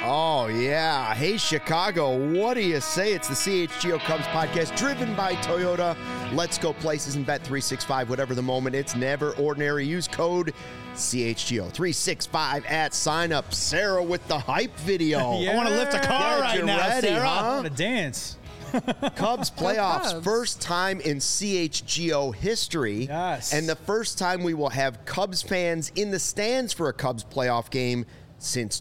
Oh, yeah. Hey, Chicago, what do you say? It's the CHGO Cubs podcast driven by Toyota. Let's go places and bet 365, whatever the moment. It's never ordinary. Use code CHGO365 at sign up. Sarah with the hype video. Yeah. I want to lift a car right now, ready, Sarah. huh? I want to dance. Cubs playoffs, Cubs. first time in CHGO history. Yes. And the first time we will have Cubs fans in the stands for a Cubs playoff game since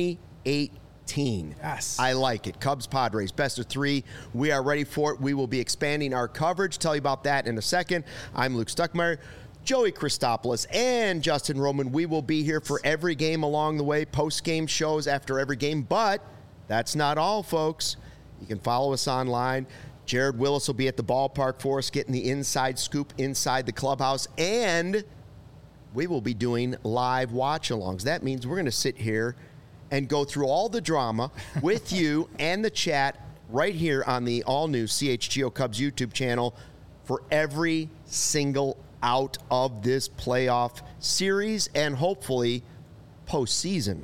2018. Yes. I like it. Cubs Padres, best of three. We are ready for it. We will be expanding our coverage. Tell you about that in a second. I'm Luke Stuckmeyer. Joey Christopoulos and Justin Roman. We will be here for every game along the way, post-game shows after every game. But that's not all, folks. You can follow us online. Jared Willis will be at the ballpark for us, getting the inside scoop inside the clubhouse. And we will be doing live watch-alongs. That means we're going to sit here and go through all the drama with you and the chat right here on the all-new CHGO Cubs YouTube channel for every single out of this playoff series and hopefully postseason.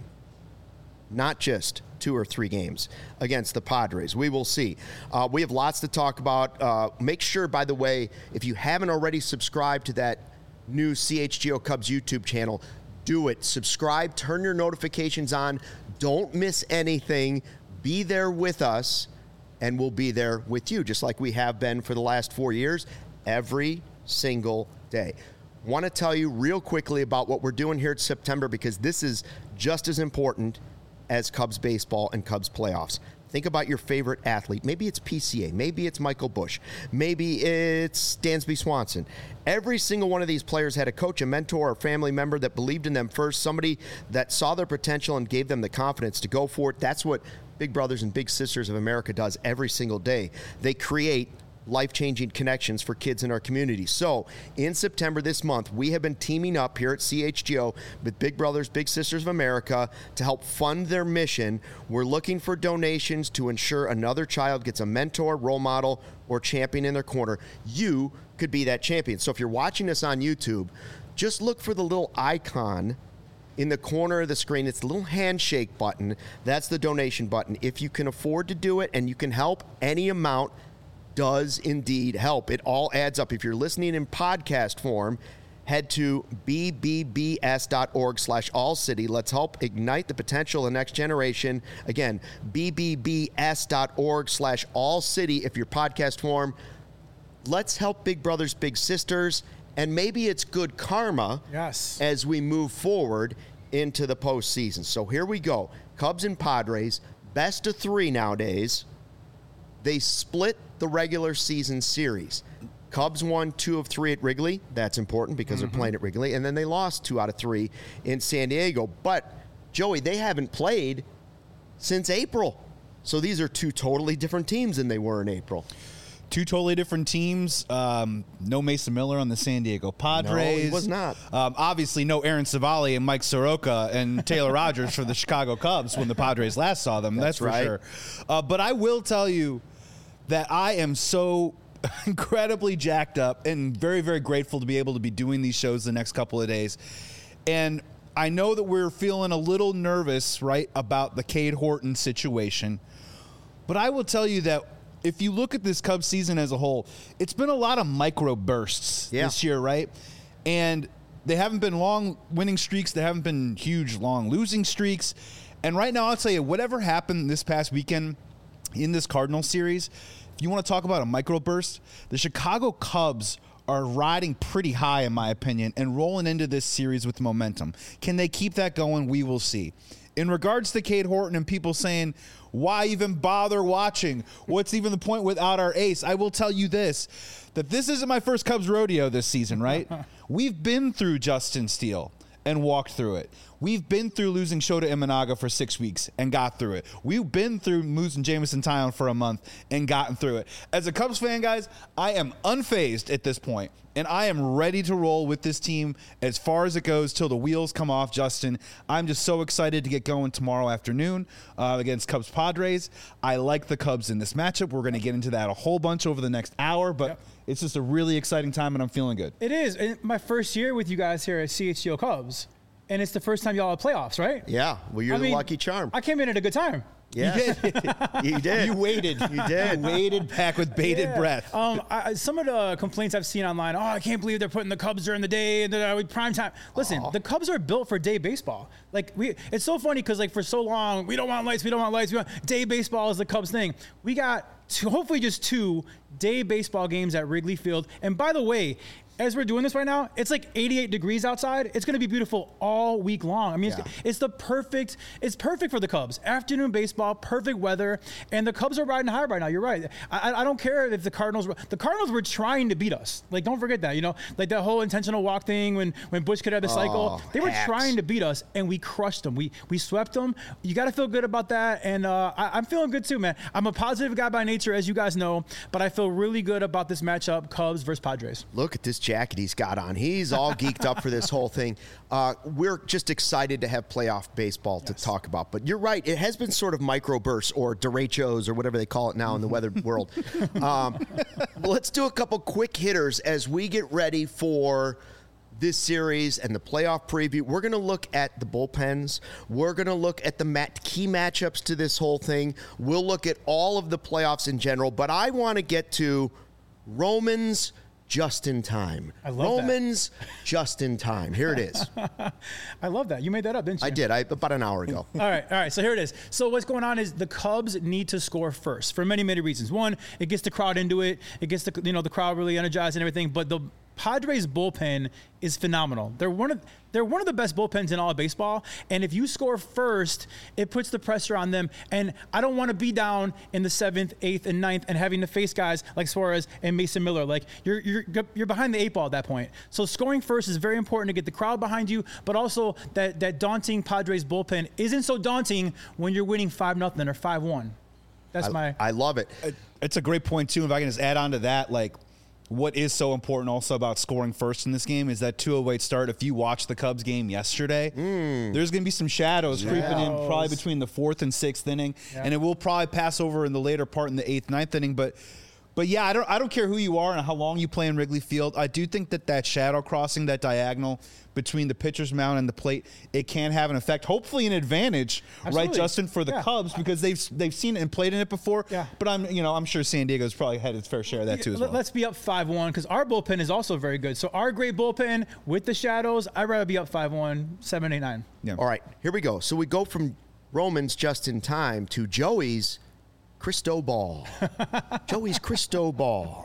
Not just 2 or 3 games against the Padres. We will see. We have lots to talk about. Make sure, by the way, if you haven't already subscribed to that new CHGO Cubs YouTube channel, do it. Subscribe, turn your notifications on. Don't miss anything. Be there with us, and we'll be there with you, just like we have been for the last 4 years, every single day. Want to tell you real quickly about what we're doing here in September, because this is just as important as Cubs baseball and Cubs playoffs. Think about your favorite athlete. Maybe it's PCA. Maybe it's Michael Busch. Maybe it's Dansby Swanson. Every single one of these players had a coach, a mentor, or family member that believed in them first, somebody that saw their potential and gave them the confidence to go for it. That's what Big Brothers and Big Sisters of America does every single day. They create life-changing connections for kids in our community. So in September this month, we have been teaming up here at CHGO with Big Brothers, Big Sisters of America to help fund their mission. We're looking for donations to ensure another child gets a mentor, role model, or champion in their corner. You could be that champion. So if you're watching us on YouTube, just look for the little icon in the corner of the screen. It's the little handshake button. That's the donation button. If you can afford to do it and you can help, any amount does indeed help. It all adds up. If you're listening in podcast form, head to bbbs.org/allcity. Let's help ignite the potential of the next generation. Again, bbbs.org/allcity if you're podcast form. Let's help Big Brothers, Big Sisters, and maybe it's good karma as we move forward into the postseason. So here we go. Cubs and Padres, best of 3 nowadays. They split the regular season series. Cubs won 2 of 3 at Wrigley. That's important because they're playing at Wrigley. And then they lost 2 out of 3 in San Diego. But, Joey, they haven't played since April. So these are 2 totally different teams than they were in April. 2 totally different teams. No Mason Miller on the San Diego Padres. No, he was not. Obviously, no Aaron Savali and Mike Soroka and Taylor Rogers for the Chicago Cubs when the Padres last saw them. That's for right. sure. But I will tell you that I am so incredibly jacked up and very, very grateful to be able to be doing these shows the next couple of days. And I know that we're feeling a little nervous, right, about the Cade Horton situation. But I will tell you that if you look at this Cubs season as a whole, it's been a lot of micro bursts this year, right? And they haven't been long winning streaks. They haven't been huge, long losing streaks. And right now, I'll tell you, whatever happened this past weekend in this Cardinals series, if you want to talk about a microburst, the Chicago Cubs are riding pretty high, in my opinion, and rolling into this series with momentum. Can they keep that going? We will see. In regards to Cade Horton and people saying, why even bother watching? What's even the point without our ace? I will tell you this, that this isn't my first Cubs rodeo this season, right? We've been through Justin Steele and walked through it. We've been through losing Shota Imanaga for 6 weeks and got through it. We've been through losing Jameson Taillon for a month and gotten through it. As a Cubs fan, guys, I am unfazed at this point, and I am ready to roll with this team as far as it goes till the wheels come off, Justin. I'm just so excited to get going tomorrow afternoon against Cubs Padres. I like the Cubs in this matchup. We're going to get into that a whole bunch over the next hour, but it's just a really exciting time, and I'm feeling good. It is. And my first year with you guys here at CHGO Cubs, and it's the first time y'all have playoffs, right? Yeah. Well, you're the lucky charm. I came in at a good time. Yeah, you did. You waited. You did. You waited back with bated breath. Some of the complaints I've seen online, I can't believe they're putting the Cubs during the day and prime time. Listen, the Cubs are built for day baseball. Like it's so funny because like for so long, we don't want lights. We want day baseball is the Cubs thing. We got hopefully just 2 day baseball games at Wrigley Field. And by the way, as we're doing this right now, it's like 88 degrees outside. It's going to be beautiful all week long. I mean, it's perfect for the Cubs. Afternoon baseball, perfect weather, and the Cubs are riding high right now. You're right. I don't care if the Cardinals were trying to beat us. Like, don't forget that, like that whole intentional walk thing when Bush could have the cycle. They were trying to beat us, and we crushed them. We swept them. You got to feel good about that, and I'm feeling good too, man. I'm a positive guy by nature, as you guys know, but I feel really good about this matchup, Cubs versus Padres. Look at this jacket he's got on. He's all geeked up for this whole thing. We're just excited to have playoff baseball to talk about. But you're right. It has been sort of microbursts or derechos or whatever they call it now in the weather world. Let's do a couple quick hitters as we get ready for this series and the playoff preview. We're going to look at the bullpens. We're going to look at the key matchups to this whole thing. We'll look at all of the playoffs in general. But I want to get to Romans just in time. I love Romans just in time. Here it is. I love that. You made that up, didn't you? I did. About an hour ago. All right. So here it is. So what's going on is the Cubs need to score first for many, many reasons. One, it gets the crowd into it. It gets the crowd really energized and everything. But the Padres bullpen is phenomenal. They're one of the best bullpens in all of baseball. And if you score first, it puts the pressure on them. And I don't want to be down in the 7th, 8th, and 9th and having to face guys like Suarez and Mason Miller. Like you're behind the 8 ball at that point. So scoring first is very important to get the crowd behind you, but also that daunting Padres bullpen isn't so daunting when you're winning 5-0 or 5-1. I love it. It's a great point too. If I can just add on to that, like, what is so important also about scoring first in this game is that 2:08 start. If you watch the Cubs game yesterday, there's going to be some shadows creeping in probably between the 4th and 6th inning, and it will probably pass over in the later part in the 8th, 9th inning. But yeah, I don't care who you are and how long you play in Wrigley Field. I do think that shadow crossing, that diagonal between the pitcher's mound and the plate, it can have an effect. Hopefully, an advantage, Absolutely. right, Justin, for the Cubs because they've seen it and played in it before. Yeah. But I'm sure San Diego's probably had its fair share of that too as well. Let's be up 5-1 because our bullpen is also very good. So our great bullpen with the shadows, I'd rather be up 5-1, 7, 8, 9. Yeah. All right, here we go. So we go from Romans just in time to Joey's Cristobal. Joey's Cristobal.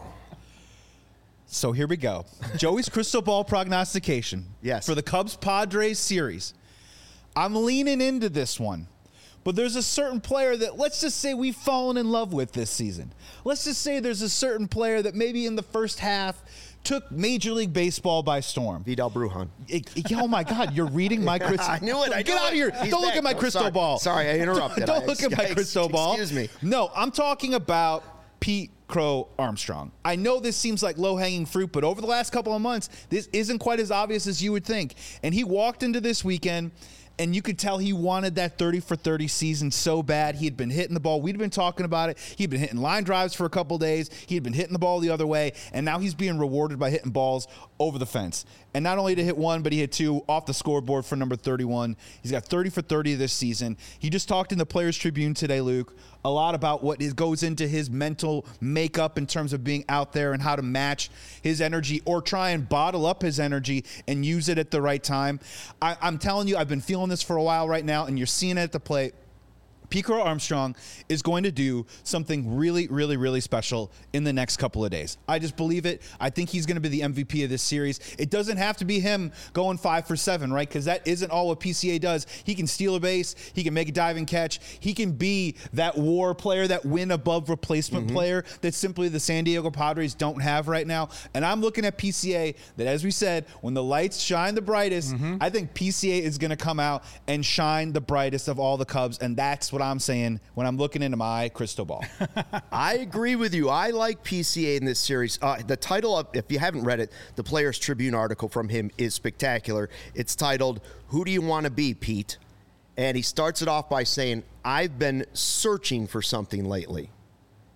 So here we go. Joey's crystal ball prognostication. Yes. For the Cubs-Padres series. I'm leaning into this one. But there's a certain player that, let's just say, we've fallen in love with this season. Let's just say there's a certain player that maybe in the first half took Major League Baseball by storm. Vidal Brujan. Oh, my God. You're reading my crystal ball. I knew it. Get out of here. Don't look at my crystal ball. Sorry, I interrupted. Don't look at my crystal ball. Excuse me. No, I'm talking about Pete Crow Armstrong. I know this seems like low-hanging fruit, but over the last couple of months, this isn't quite as obvious as you would think. And he walked into this weekend, and you could tell he wanted that 30-for-30 season so bad. He had been hitting the ball. We'd been talking about it. He'd been hitting line drives for a couple days. He'd been hitting the ball the other way, and now he's being rewarded by hitting balls over the fence. And not only did he hit 1, but he hit 2 off the scoreboard for number 31. He's got 30-for-30 this season. He just talked in the Players Tribune today, Luke, a lot about what goes into his mental makeup in terms of being out there and how to match his energy or try and bottle up his energy and use it at the right time. I'm telling you, I've been feeling this for a while right now, and you're seeing it at the plate. Pete Crow Armstrong is going to do something really, really, really special in the next couple of days. I just believe it. I think he's going to be the MVP of this series. It doesn't have to be him going 5 for 7, right? Because that isn't all what PCA does. He can steal a base. He can make a diving catch. He can be that WAR player, that win above replacement player that simply the San Diego Padres don't have right now. And I'm looking at PCA that, as we said, when the lights shine the brightest, I think PCA is going to come out and shine the brightest of all the Cubs. And that's what I'm saying when I'm looking into my crystal ball. I agree with you. I like PCA in this series. The title of, if you haven't read it, the Players Tribune article from him is spectacular. It's titled, "Who Do You Want to Be, Pete?" And he starts it off by saying, "I've been searching for something lately."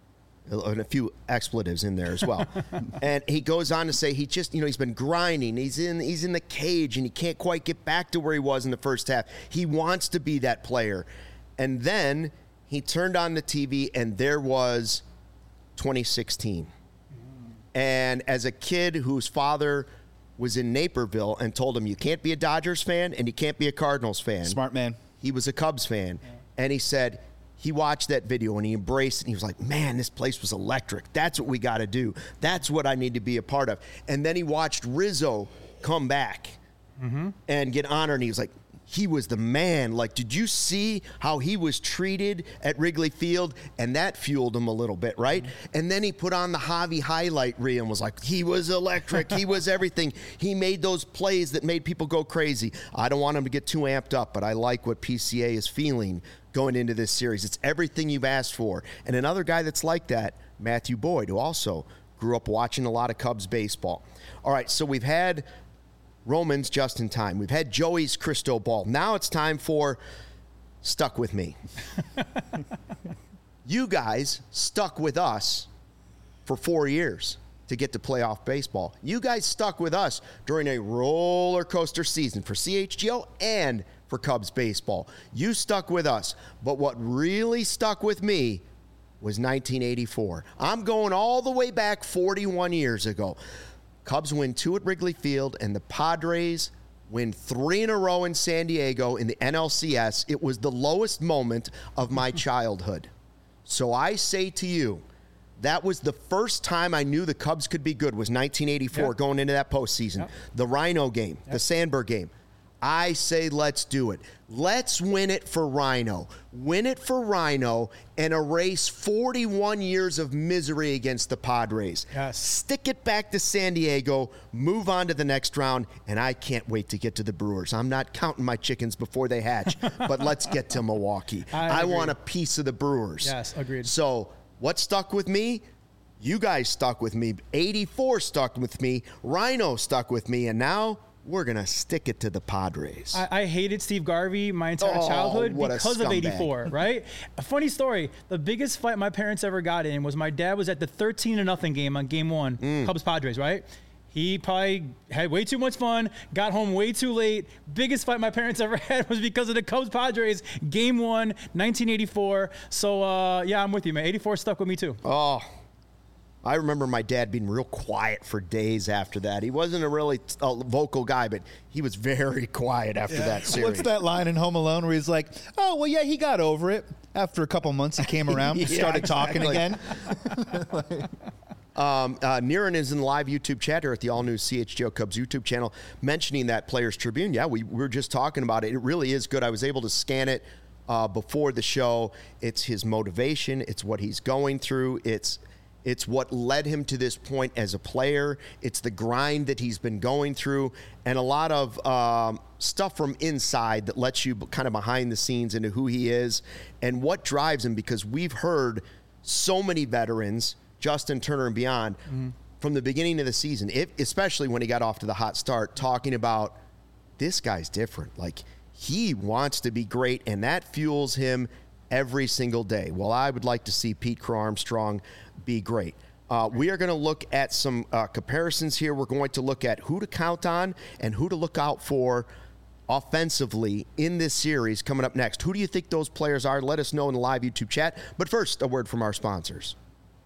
and a few expletives in there as well. And he goes on to say he just, he's been grinding. He's in the cage, and he can't quite get back to where he was in the first half. He wants to be that player. And then he turned on the TV, and there was 2016. And as a kid whose father was in Naperville and told him, you can't be a Dodgers fan and you can't be a Cardinals fan. Smart man. He was a Cubs fan. Yeah. And he said he watched that video and he embraced it. And he was like, man, this place was electric. That's what we got to do. That's what I need to be a part of. And then he watched Rizzo come back and get honored. And he was like, he was the man. Like, did you see how he was treated at Wrigley Field? And that fueled him a little bit, right? And then he put on the Javi highlight reel and was like, he was electric. He was everything. He made those plays that made people go crazy. I don't want him to get too amped up, but I like what PCA is feeling going into this series. It's everything you've asked for. And another guy that's like that, Matthew Boyd, who also grew up watching a lot of Cubs baseball. All right, so we've had Roman's just in time. We've had Joey's crystal ball. Now it's time for Stuck With Me. You guys stuck with us for 4 years to get to playoff baseball. You guys stuck with us during a roller coaster season for CHGO and for Cubs baseball. You stuck with us. But what really stuck with me was 1984. I'm going all the way back 41 years ago. Cubs win 2 at Wrigley Field, and the Padres win 3 in a row in San Diego in the NLCS. It was the lowest moment of my childhood. So I say to you, that was the first time I knew the Cubs could be good, was 1984, going into that postseason. The Rhino game, the Sandberg game. I say let's do it. Let's win it for Rhino. Win it for Rhino and erase 41 years of misery against the Padres. Yes. Stick it back to San Diego, move on to the next round, and I can't wait to get to the Brewers. I'm not counting my chickens before they hatch, but let's get to Milwaukee. I want a piece of the Brewers. Yes, agreed. So what stuck with me? You guys stuck with me. 84 stuck with me. Rhino stuck with me, and now we're going to stick it to the Padres. I hated Steve Garvey my entire childhood because of 84, right? A funny story. The biggest fight my parents ever got in was my dad was at the 13-0 game on game 1, Cubs-Padres, right? He probably had way too much fun, got home way too late. Biggest fight my parents ever had was because of the Cubs-Padres, game 1, 1984. So, yeah, I'm with you, man. 84 stuck with me, too. Oh, I remember my dad being real quiet for days after that. He wasn't a really vocal guy, but he was very quiet after that series. What's that line in Home Alone where he's like, oh, well, yeah, he got over it. After a couple months, he came around and started talking again. Niren is in the live YouTube chat here at the all-new CHGO Cubs YouTube channel mentioning that Players Tribune. Yeah, we were just talking about it. It really is good. I was able to scan it before the show. It's his motivation. It's what he's going through. It's what led him to this point as a player. It's the grind that he's been going through, and a lot of stuff from inside that lets you kind of behind the scenes into who he is and what drives him, because we've heard so many veterans, Justin Turner and beyond, from the beginning of the season, especially when he got off to the hot start, talking about this guy's different. Like, he wants to be great, and that fuels him every single day. Well, I would like to see Pete Crow Armstrong be great. We are going to look at some comparisons here. We're going to look at who to count on and who to look out for offensively in this series coming up next. Who do you think those players are? Let us know in the live YouTube chat. But first, a word from our sponsors.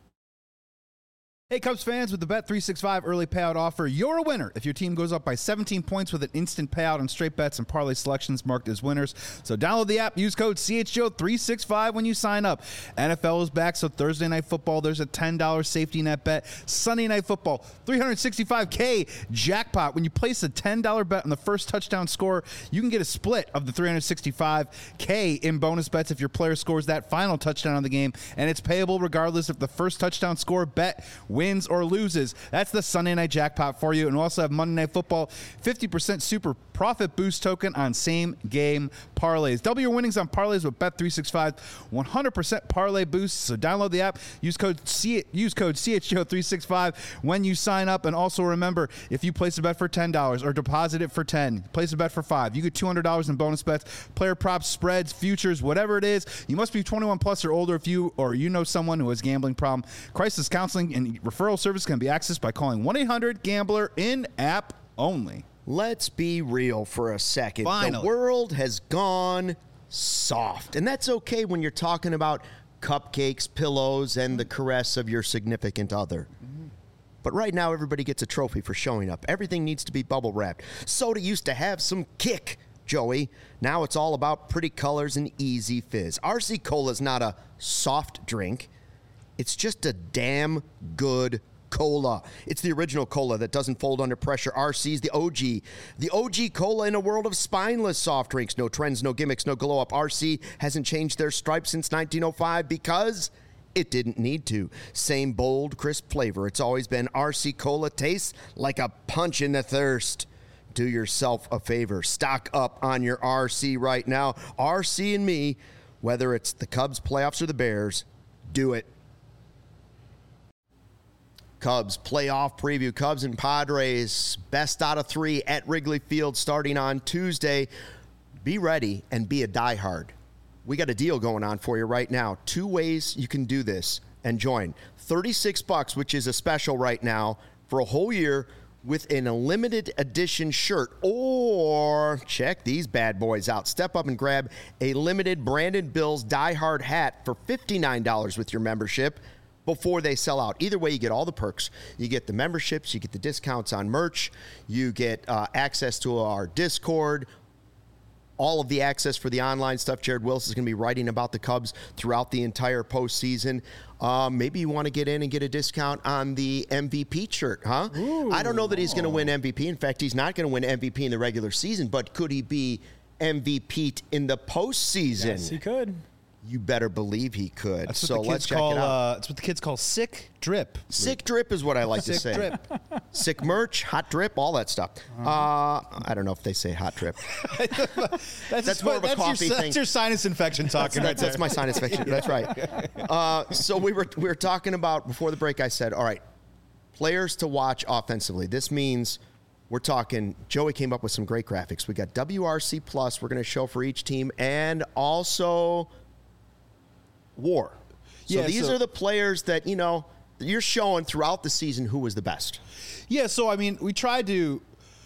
Hey, Cubs fans, with the Bet365 early payout offer, you're a winner if your team goes up by 17 points with an instant payout on straight bets and parlay selections marked as winners. So download the app, use code CHGO365 when you sign up. NFL is back, so Thursday Night Football, there's a $10 safety net bet. Sunday Night Football, $365K jackpot. When you place a $10 bet on the first touchdown score, you can get a split of the $365K in bonus bets if your player scores that final touchdown of the game, and it's payable regardless if the first touchdown score bet wins or loses. That's the Sunday Night Jackpot for you. And we also have Monday Night Football, 50% super profit boost token on same game parlays. Double your winnings on parlays with Bet365, 100% parlay boost. So download the app, use code CHGO365 when you sign up. And also remember, if you place a bet for $10 or deposit it for $10, place a bet for $5, you get $200 in bonus bets, player props, spreads, futures, whatever it is. You must be 21 plus or older if you know someone who has a gambling problem. Crisis counseling and referral service can be accessed by calling 1-800-GAMBLER in-app only. Let's be real for a second. Finally. The world has gone soft, and that's okay when you're talking about cupcakes, pillows, and the caress of your significant other. But right now, everybody gets a trophy for showing up. Everything needs to be bubble wrapped. Soda used to have some kick, Joey. Now it's all about pretty colors and easy fizz. RC Cola is not a soft drink. It's just a damn good cola. It's the original cola that doesn't fold under pressure. RC's the OG. The OG cola in a world of spineless soft drinks. No trends, no gimmicks, no glow up. RC hasn't changed their stripe since 1905 because it didn't need to. Same bold, crisp flavor. It's always been RC Cola. Tastes like a punch in the thirst. Do yourself a favor. Stock up on your RC right now. RC and me, whether it's the Cubs playoffs or the Bears, do it. Cubs playoff preview. Cubs and Padres, best out of 3 at Wrigley Field starting on Tuesday. Be ready and be a diehard. We got a deal going on for you right now. 2 ways you can do this and join. $36, which is a special right now for a whole year with an limited edition shirt. Or check these bad boys out. Step up and grab a limited Brandon Bills diehard hat for $59 with your membership before they sell out. Either way, you get all the perks. You get the memberships, you get the discounts on merch, you get access to our Discord, all of the access for the online stuff. Jared Wilson is going to be writing about the Cubs throughout the entire postseason. Maybe you want to get in and get a discount on the MVP shirt, huh? Ooh. I don't know that he's going to win MVP. In fact, he's not going to win MVP in the regular season, but could he be MVP in the postseason? Yes, he could. You better believe he could. That's what so let's check it out. That's what the kids call sick drip. Sick drip is what I like to say. Sick drip. Sick merch, hot drip, all that stuff. I don't know if they say hot drip. that's more of a coffee thing. That's your sinus infection talking. That's my sinus infection. Yeah. That's right. So we were talking about before the break. I said, all right, players to watch offensively. This means we're talking. Joey came up with some great graphics. We got WRC Plus. We're going to show for each team, and also WAR. So these are the players that, you're showing throughout the season who was the best. Yeah, so I mean, what we try to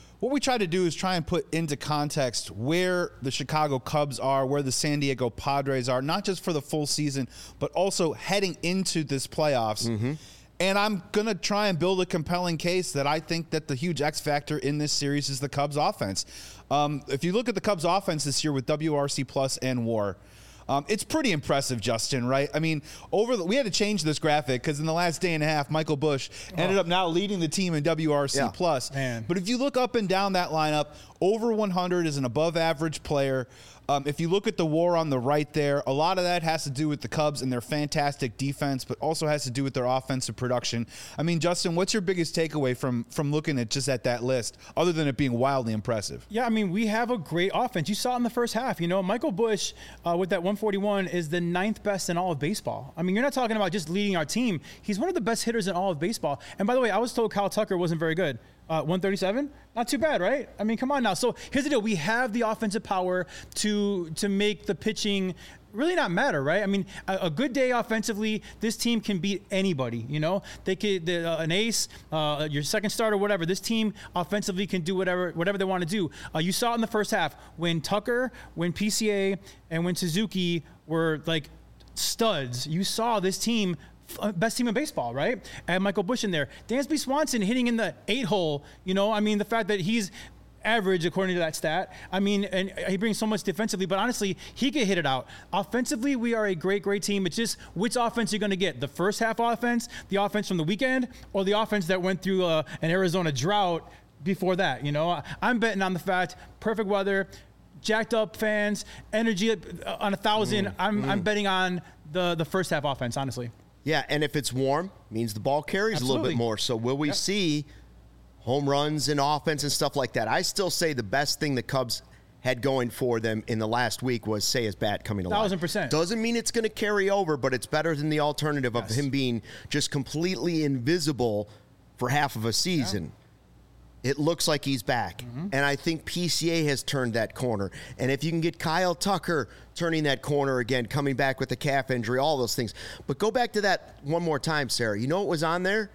do is try and put into context where the Chicago Cubs are, where the San Diego Padres are, not just for the full season, but also heading into this playoffs. Mm-hmm. And I'm going to try and build a compelling case that I think that the huge X factor in this series is the Cubs offense. If you look at the Cubs offense this year with WRC Plus and WAR, it's pretty impressive, Justin, right? I mean, we had to change this graphic because in the last day and a half, Michael Busch ended up now leading the team in WRC Plus. Man. But if you look up and down that lineup, over 100 is an above-average player. If you look at the WAR on the right there, a lot of that has to do with the Cubs and their fantastic defense, but also has to do with their offensive production. I mean, Justin, what's your biggest takeaway from looking at that list, other than it being wildly impressive? Yeah, I mean, we have a great offense. You saw it in the first half. Michael Busch with that 141 is the 9th best in all of baseball. I mean, you're not talking about just leading our team. He's one of the best hitters in all of baseball. And by the way, I was told Kyle Tucker wasn't very good. 137, not too bad, right? I mean, come on now. So here's the deal: we have the offensive power to make the pitching really not matter, right? I mean, a good day offensively, this team can beat anybody. They could an ace, your second starter, whatever. This team offensively can do whatever they want to do. You saw it in the first half when Tucker, when PCA, and when Suzuki were like studs. You saw this team. Best team in baseball, right? And Michael Busch in there. Dansby Swanson hitting in the 8-hole. I mean, the fact that he's average according to that stat. I mean, and he brings so much defensively, but honestly, he could hit it out. Offensively, we are a great, great team. It's just which offense you're going to get. The first half offense, the offense from the weekend, or the offense that went through an Arizona drought before that. I'm betting on the fact, perfect weather, jacked up fans, energy on 1,000. I'm betting on the first half offense, honestly. Yeah, and if it's warm, means the ball carries a little bit Absolutely. more. So will we see home runs and offense and stuff like that? I still say the best thing the Cubs had going for them in the last week was Seiya's bat coming alive. 1,000%. Doesn't mean it's going to carry over, but it's better than the alternative of him being just completely invisible for half of a season. It looks like he's back. And I think PCA has turned that corner. And if you can get Kyle Tucker turning that corner again, coming back with the calf injury, all those things. But go back to that one more time, Sarah. You know what was on there?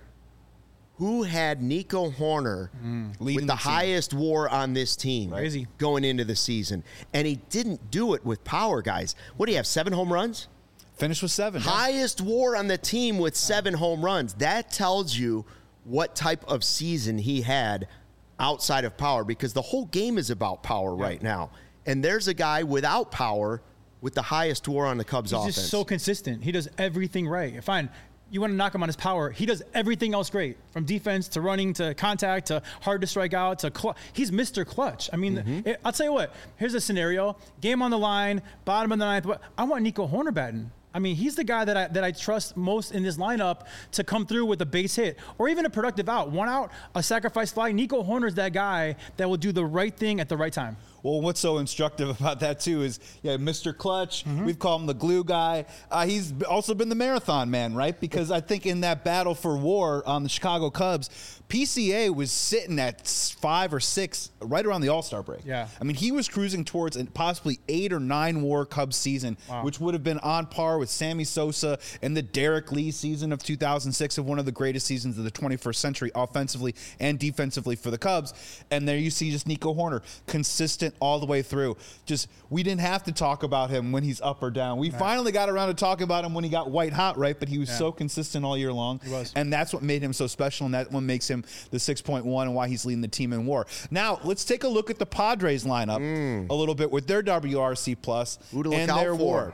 Who had Nico Horner with the highest WAR on this team Crazy. going into the season? And he didn't do it with power, guys. What do you have, 7 home runs? Finished with 7. Highest WAR on the team with 7 home runs. That tells you what type of season he had outside of power, because the whole game is about power right now. And there's a guy without power with the highest WAR on the Cubs offense. He's just so consistent. He does everything right. Fine. You want to knock him on his power. He does everything else great, from defense to running to contact to hard to strike out to he's Mr. Clutch. I mean, I'll tell you what. Here's a scenario: game on the line, bottom of the ninth. I want Nico Horner batting. I mean, he's the guy that I trust most in this lineup to come through with a base hit or even a productive out. 1 out, a sacrifice fly. Nico Horner's that guy that will do the right thing at the right time. Well, what's so instructive about that, too, is, Mr. Clutch. We've called him the glue guy. He's also been the marathon man, right? Because I think in that battle for WAR on the Chicago Cubs, PCA was sitting at 5 or 6 right around the All-Star break. Yeah. I mean, he was cruising towards a possibly 8 or 9 WAR Cubs season, which would have been on par with Sammy Sosa and the Derek Lee season of 2006, of one of the greatest seasons of the 21st century, offensively and defensively for the Cubs. And there you see just Nico Horner, consistent all the way through. Just, we didn't have to talk about him when he's up or down. We finally got around to talking about him when he got white hot, right? But he was so consistent all year long. He was. And that's what made him so special, and that's what makes him the 6.1 and why he's leading the team in WAR. Now, let's take a look at the Padres lineup a little bit with their WRC plus Who to look and out their for. WAR.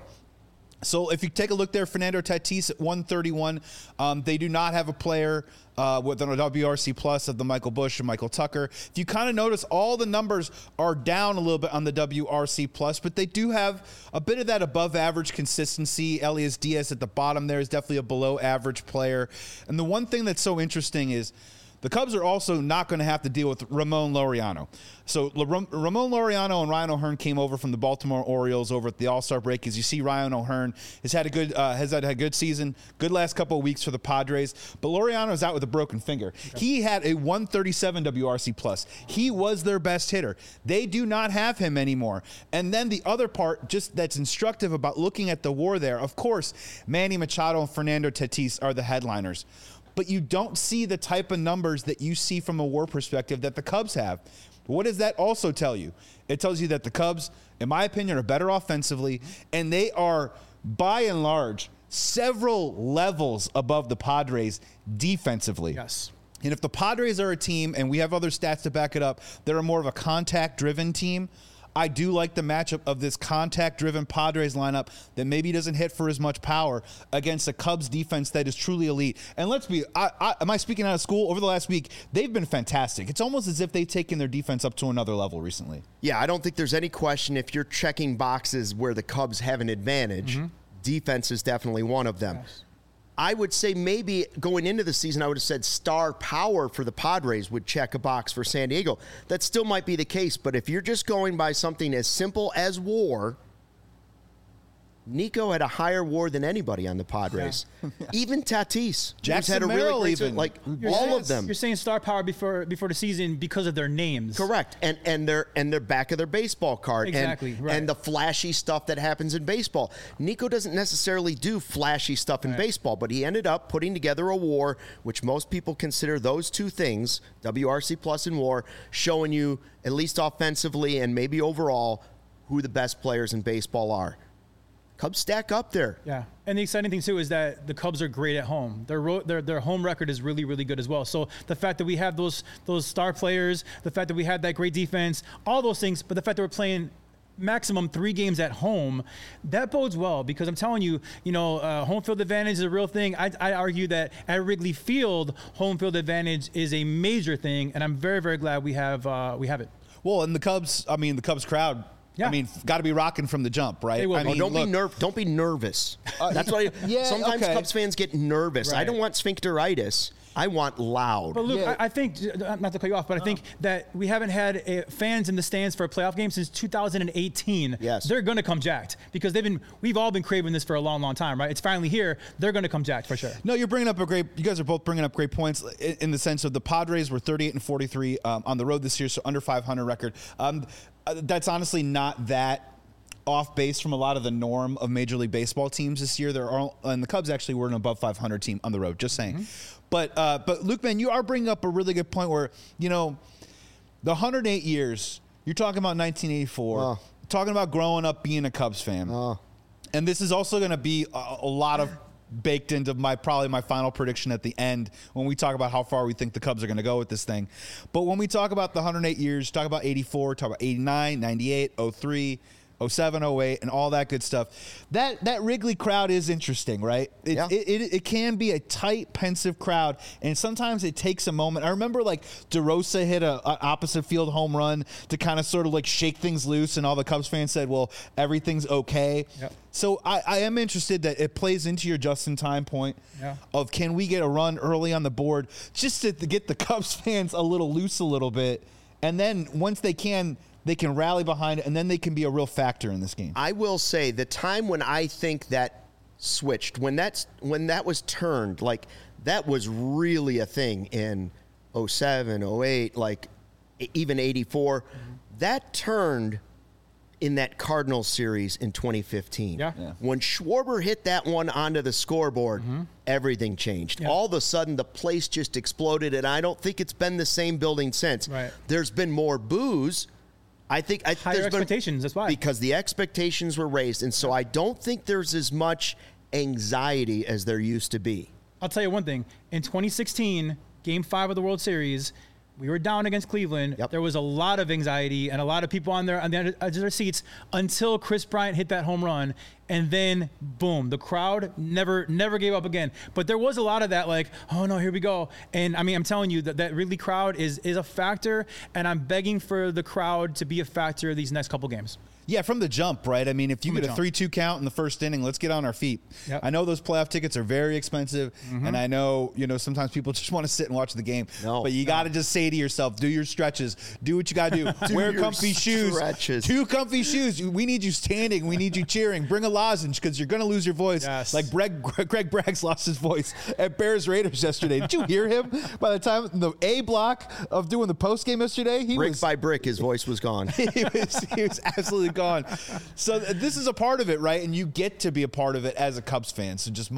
So if you take a look there, Fernando Tatis at 131. They do not have a player with a WRC plus of the Michael Busch and Michael Tucker. If you kind of notice, all the numbers are down a little bit on the WRC plus, but they do have a bit of that above average consistency. Elias Diaz at the bottom there is definitely a below average player. And the one thing that's so interesting is the Cubs are also not going to have to deal with Ramon Laureano. So Ramon Laureano and Ryan O'Hearn came over from the Baltimore Orioles over at the All-Star break. As you see, Ryan O'Hearn has had a good season, good last couple of weeks for the Padres. But Laureano is out with a broken finger. Okay. He had a 137 WRC plus. He was their best hitter. They do not have him anymore. And then the other part, just that's instructive about looking at the WAR there. Of course, Manny Machado and Fernando Tatis are the headliners. But you don't see the type of numbers that you see from a WAR perspective that the Cubs have. What does that also tell you? It tells you that the Cubs, in my opinion, are better offensively, and they are, by and large, several levels above the Padres defensively. Yes. And if the Padres are a team, and we have other stats to back it up, they're more of a contact-driven team, I do like the matchup of this contact-driven Padres lineup that maybe doesn't hit for as much power against a Cubs defense that is truly elite. And let's be, am I speaking out of school? Over the last week, they've been fantastic. It's almost as if they've taken their defense up to another level recently. Yeah, I don't think there's any question if you're checking boxes where the Cubs have an advantage, defense is definitely one of them. Yes. I would say maybe going into the season, I would have said star power for the Padres would check a box for San Diego. That still might be the case, but if you're just going by something as simple as WAR, Nico had a higher WAR than anybody on the Padres. Yeah. Even Tatis. Jackson had a Merrill really great even. like all of them. You're saying star power before the season because of their names. Correct. And their back of their baseball card. Exactly. Right. And the flashy stuff that happens in baseball. Nico doesn't necessarily do flashy stuff in baseball, but he ended up putting together a WAR, which most people consider those two things, WRC plus and WAR, showing you, at least offensively and maybe overall, who the best players in baseball are. Cubs stack up there. Yeah, and the exciting thing too is that the Cubs are great at home. Their home record is really, really good as well. So the fact that we have those star players, the fact that we have that great defense, all those things, but the fact that we're playing maximum 3 games at home, that bodes well because I'm telling you, home field advantage is a real thing. I argue that at Wrigley Field, home field advantage is a major thing, and I'm very, very glad we have it. Well, and the Cubs crowd Yeah. I mean, got to be rocking from the jump, right? They will. I mean, Don't be nervous. That's why sometimes Cubs fans get nervous. Right. I don't want sphincteritis. I want loud. But Luke, I think, not to cut you off, but I think that we haven't had fans in the stands for a playoff game since 2018. Yes. They're going to come jacked because we've all been craving this for a long, long time, right? It's finally here. They're going to come jacked for sure. No, you guys are both bringing up great points in the sense of the Padres were 38-43 on the road this year, so under 500 record. That's honestly not that off base from a lot of the norm of Major League Baseball teams this year. And the Cubs actually were an above 500 team on the road, just saying. Mm-hmm. But Luke, man, you are bringing up a really good point where, the 108 years, you're talking about 1984, talking about growing up being a Cubs fan. And this is also going to be a lot of baked into probably my final prediction at the end when we talk about how far we think the Cubs are going to go with this thing. But when we talk about the 108 years, talk about 84, talk about 89, 98, 03, 07, 08, and all that good stuff. That Wrigley crowd is interesting, right? It can be a tight, pensive crowd, and sometimes it takes a moment. I remember DeRosa hit a opposite field home run to kind of sort of shake things loose, and all the Cubs fans said, well, everything's okay. Yep. So I am interested that it plays into your just-in-time point of can we get a run early on the board just to get the Cubs fans a little loose a little bit, and then once they can rally behind it, and then they can be a real factor in this game. I will say the time when I think that switched, when that was turned, that was really a thing in 07, 08, even 84. Mm-hmm. That turned in that Cardinals series in 2015. Yeah. When Schwarber hit that one onto the scoreboard, everything changed. Yeah. All of a sudden, the place just exploded, and I don't think it's been the same building since. Right. There's been more boos. I think higher expectations. That's why, because the expectations were raised, and so I don't think there's as much anxiety as there used to be. I'll tell you one thing: in 2016, Game 5 of the World Series, we were down against Cleveland. Yep. There was a lot of anxiety and a lot of people on the edge of their seats until Chris Bryant hit that home run, and then boom, the crowd never gave up again. But there was a lot of that, oh no, here we go. And I mean, I'm telling you that Wrigley crowd is a factor, and I'm begging for the crowd to be a factor these next couple games. Yeah, from the jump, right? I mean, if you get a 3-2 count in the first inning, let's get on our feet. Yep. I know those playoff tickets are very expensive, and I know, sometimes people just want to sit and watch the game. But you got to just say to yourself, do your stretches, do what you got to do. Wear comfy shoes. 2 comfy shoes. We need you standing. We need you cheering. Bring a lozenge because you're going to lose your voice. Yes. Like Greg Braggs lost his voice at Bears Raiders yesterday. Did you hear him? By the time the A block of doing the post game yesterday, brick by brick, his voice was gone. he was absolutely gone. So this is a part of it, right? And you get to be a part of it as a Cubs fan. So just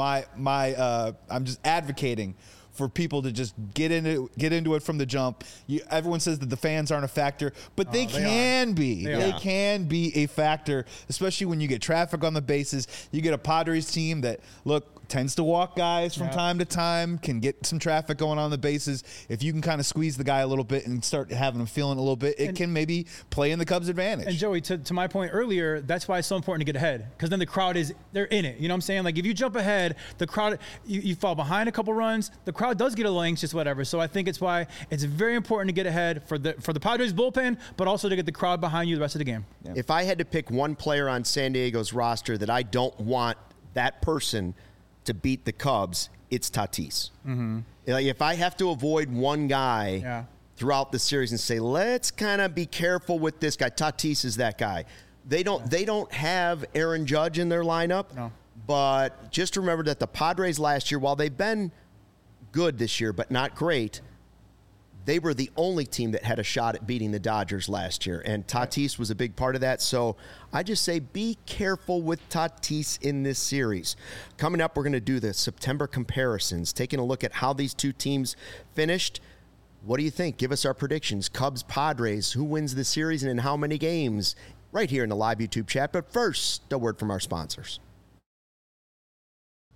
I'm just advocating for people to just get into it from the jump. Everyone says that the fans aren't a factor, but they can be. They can be a factor, especially when you get traffic on the bases. You get a Padres team that tends to walk guys from time to time, can get some traffic going on the bases. If you can kind of squeeze the guy a little bit and start having him feeling a little bit, it can maybe play in the Cubs' advantage. And Joey, to my point earlier, that's why it's so important to get ahead, because then the crowd they're in it. You know what I'm saying? If you jump ahead, the crowd, you fall behind a couple runs, the crowd does get a little anxious, whatever. So I think it's why it's very important to get ahead for the Padres bullpen, but also to get the crowd behind you the rest of the game. Yeah. If I had to pick one player on San Diego's roster that I don't want that person to beat the Cubs, it's Tatis. Mm-hmm. If I have to avoid one guy throughout the series and say, let's kind of be careful with this guy, Tatis is that guy. They don't have Aaron Judge in their lineup, but just remember that the Padres last year, while they've been good this year but not great, they were the only team that had a shot at beating the Dodgers last year, and Tatis was a big part of that. So I just say be careful with Tatis in this series. Coming up, we're going to do the September comparisons, taking a look at how these two teams finished. What do you think? Give us our predictions. Cubs, Padres, who wins the series and in how many games? Right here in the live YouTube chat. But first, a word from our sponsors.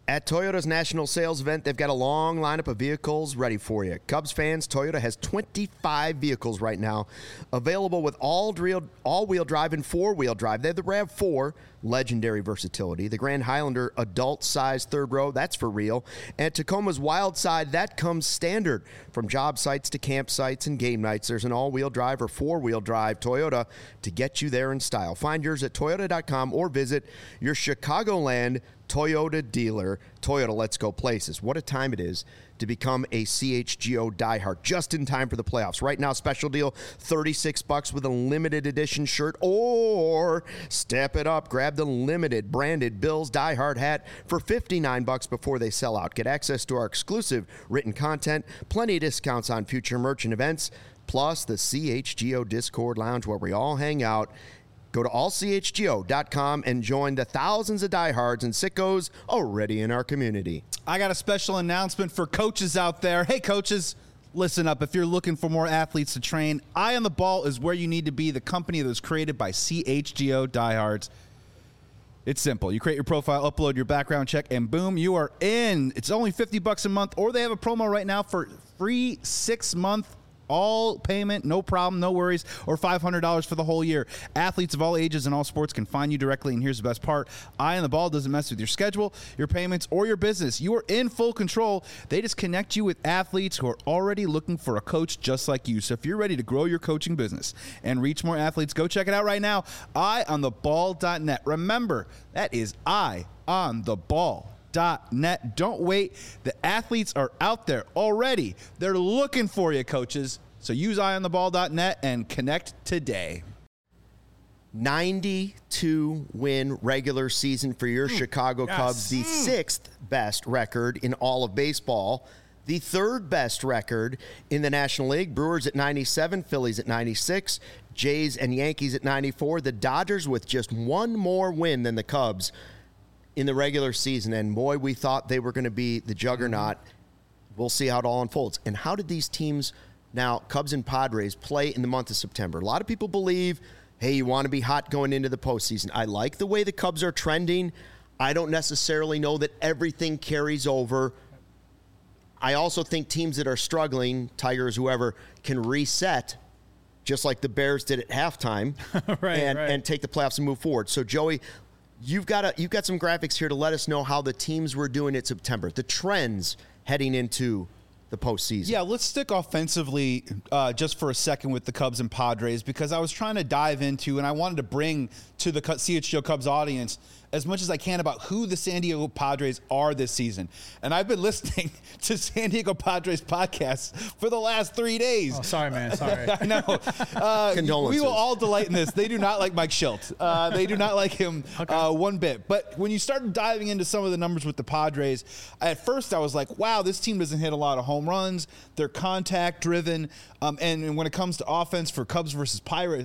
At Toyota's national sales event, they've got a long lineup of vehicles ready for you. Cubs fans, Toyota has 25 vehicles right now available with all-wheel drive and four-wheel drive. They have the RAV4, legendary versatility. The Grand Highlander, adult-size third row, that's for real. And Tacoma's Wild Side, that comes standard. From job sites to campsites and game nights, there's an all-wheel drive or four-wheel drive Toyota to get you there in style. Find yours at Toyota.com or visit your Chicagoland Toyota dealer. Toyota, let's go places. What a time it is to become a CHGO diehard just in time for the playoffs. Right now, special deal, $36 with a limited edition shirt, or step it up, grab the limited branded Bills diehard hat for $59 before they sell out. Get access to our exclusive written content, plenty of discounts on future merch and events, plus the CHGO Discord Lounge where we all hang out. Go to allchgo.com and join the thousands of diehards and sickos already in our community. I got a special announcement for coaches out there. Hey, coaches, listen up. If you're looking for more athletes to train, Eye on the Ball is where you need to be, the company that was created by CHGO diehards. It's simple. You create your profile, upload your background check, and boom, you are in. It's only $50 a month, or they have a promo right now for free 6-month all payment, no problem, no worries, or $500 for the whole year. Athletes of all ages and all sports can find you directly, and here's the best part. Eye on the Ball doesn't mess with your schedule, your payments, or your business. You are in full control. They just connect you with athletes who are already looking for a coach just like you. So if you're ready to grow your coaching business and reach more athletes, go check it out right now, eyeontheball.net. Remember, that is eyeontheball.net. Don't wait. The athletes are out there already. They're looking for you, coaches. So use eyeontheball.net and connect today. 92-win regular season for your Chicago Cubs, the 6th best record in all of baseball, the 3rd best record in the National League. Brewers at 97, Phillies at 96, Jays and Yankees at 94. The Dodgers with just one more win than the Cubs in the regular season, and boy, we thought they were going to be the juggernaut. We'll see how it all unfolds. And how did these teams, now Cubs and Padres, play in the month of September? A lot of people believe, hey, you want to be hot going into the postseason. I like the way the Cubs are trending. I don't necessarily know that everything carries over. I also think teams that are struggling, Tigers, whoever, can reset just like the Bears did at halftime and take the playoffs and move forward. So, Joey, You've got some graphics here to let us know how the teams were doing in September, the trends heading into the postseason. Yeah, let's stick offensively just for a second with the Cubs and Padres, because I was trying to dive into and I wanted to bring to the CHGO Cubs audience as much as I can about who the San Diego Padres are this season. And I've been listening to San Diego Padres podcasts for the last 3 days. Oh, sorry, man. Sorry. I know. Condolences. We will all delight in this. They do not like Mike Schilt. They do not like him one bit. But when you start diving into some of the numbers with the Padres, at first I was like, wow, this team doesn't hit a lot of home runs. They're contact driven. And when it comes to offense for Cubs versus Padres,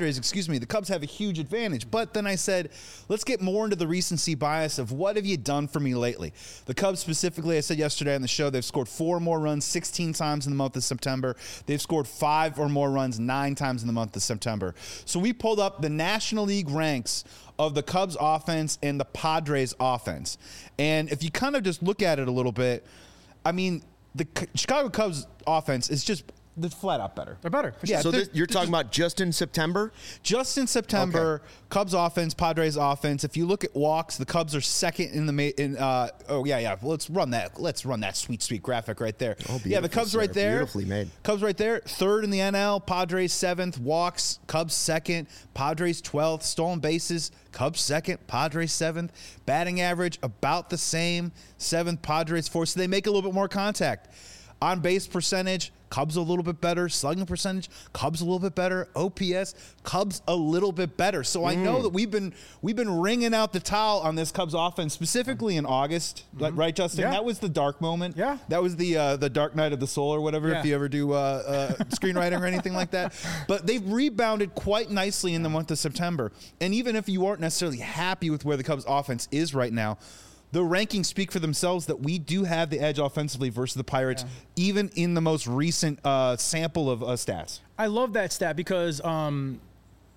the Cubs have a huge advantage. But then I said, let's get more into the recency bias of what have you done for me lately. The Cubs specifically, I said yesterday on the show, they've scored 4 more runs 16 times in the month of September. They've scored 5 or more runs 9 times in the month of September. So we pulled up the National League ranks of the Cubs offense and the Padres offense. And if you kind of just look at it a little bit, I mean, the Chicago Cubs offense is just they're flat out better. They're better. Yeah, so you're talking about just in September? Just in September, okay. Cubs offense, Padres offense. If you look at walks, the Cubs are second in the Let's run that sweet graphic right there. Oh, yeah, the Cubs right there. Beautifully made. Cubs right there, 3rd in the NL, Padres 7th, walks, Cubs 2nd, Padres 12th, stolen bases, Cubs 2nd, Padres 7th, batting average about the same, 7th, Padres 4th. So they make a little bit more contact. On base percentage, Cubs a little bit better. Slugging percentage, Cubs a little bit better. OPS, Cubs a little bit better. So I know that we've been wringing out the towel on this Cubs offense, specifically in August, right, Justin? Yeah. That was the dark moment. Yeah, that was the dark night of the soul or whatever. Yeah. If you ever do screenwriting or anything like that, but they've rebounded quite nicely in the month of September. And even if you aren't necessarily happy with where the Cubs offense is right now, the rankings speak for themselves that we do have the edge offensively versus the Pirates, even in the most recent sample of stats. I love that stat because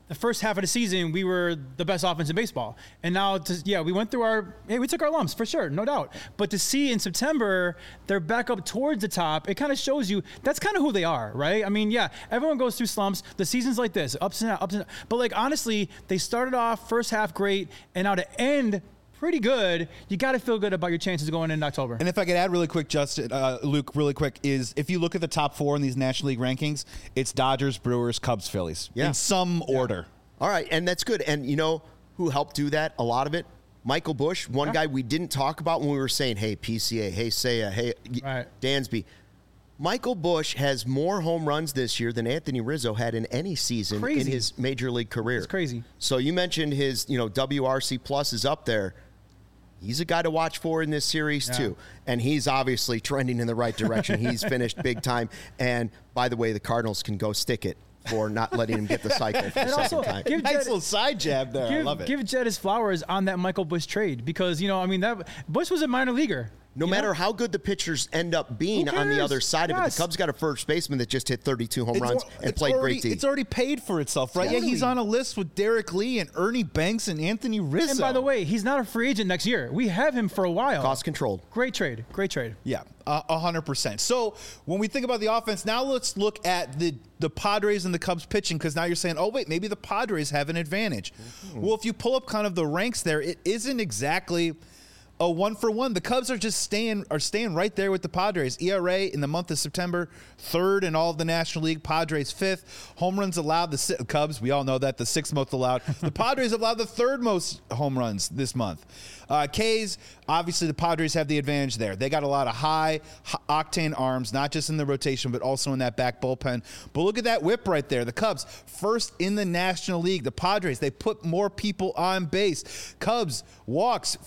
the first half of the season, we were the best offense in baseball. And now, we went through we took our lumps for sure, no doubt. But to see in September, they're back up towards the top, it kind of shows you that's kind of who they are, right? I mean, yeah, everyone goes through slumps. The season's like this, ups and downs. But like, honestly, they started off first half great, and now to end pretty good, you got to feel good about your chances going in October. And if I could add really quick, Justin, Luke, really quick, is if you look at the top 4 in these National League rankings, it's Dodgers, Brewers, Cubs, Phillies in some order. All right, and that's good. And you know who helped do that? A lot of it? Michael Busch, one guy we didn't talk about when we were saying, hey, PCA, hey, Seiya, hey, Dansby. Michael Busch has more home runs this year than Anthony Rizzo had in any season in his major league career. It's crazy. So you mentioned his, WRC plus is up there. He's a guy to watch for in this series, too. And he's obviously trending in the right direction. He's finished big time. And, by the way, the Cardinals can go stick it for not letting him get the cycle for the second time. Nice little side jab there. I love it. Give Jed his flowers on that Michael Busch trade because, that Busch was a minor leaguer. No matter how good the pitchers end up being on the other side of it, the Cubs got a first baseman that just hit 32 home runs and played great D. It's already paid for itself, right? Yeah, he's on a list with Derek Lee and Ernie Banks and Anthony Rizzo. And by the way, he's not a free agent next year. We have him for a while. Cost controlled. Great trade. Yeah, 100%. So when we think about the offense, now let's look at the Padres and the Cubs pitching because now you're saying, oh, wait, maybe the Padres have an advantage. Mm-hmm. Well, if you pull up kind of the ranks there, it isn't exactly a 1-for-1. The Cubs are just staying right there with the Padres. ERA in the month of September, 3rd in all of the National League. Padres 5th. Home runs allowed. The Cubs, we all know that, the 6th most allowed. The Padres allowed the 3rd most home runs this month. K's, obviously the Padres have the advantage there. They got a lot of high octane arms, not just in the rotation, but also in that back bullpen. But look at that whip right there. The Cubs, 1st in the National League. The Padres, they put more people on base. Cubs, walks,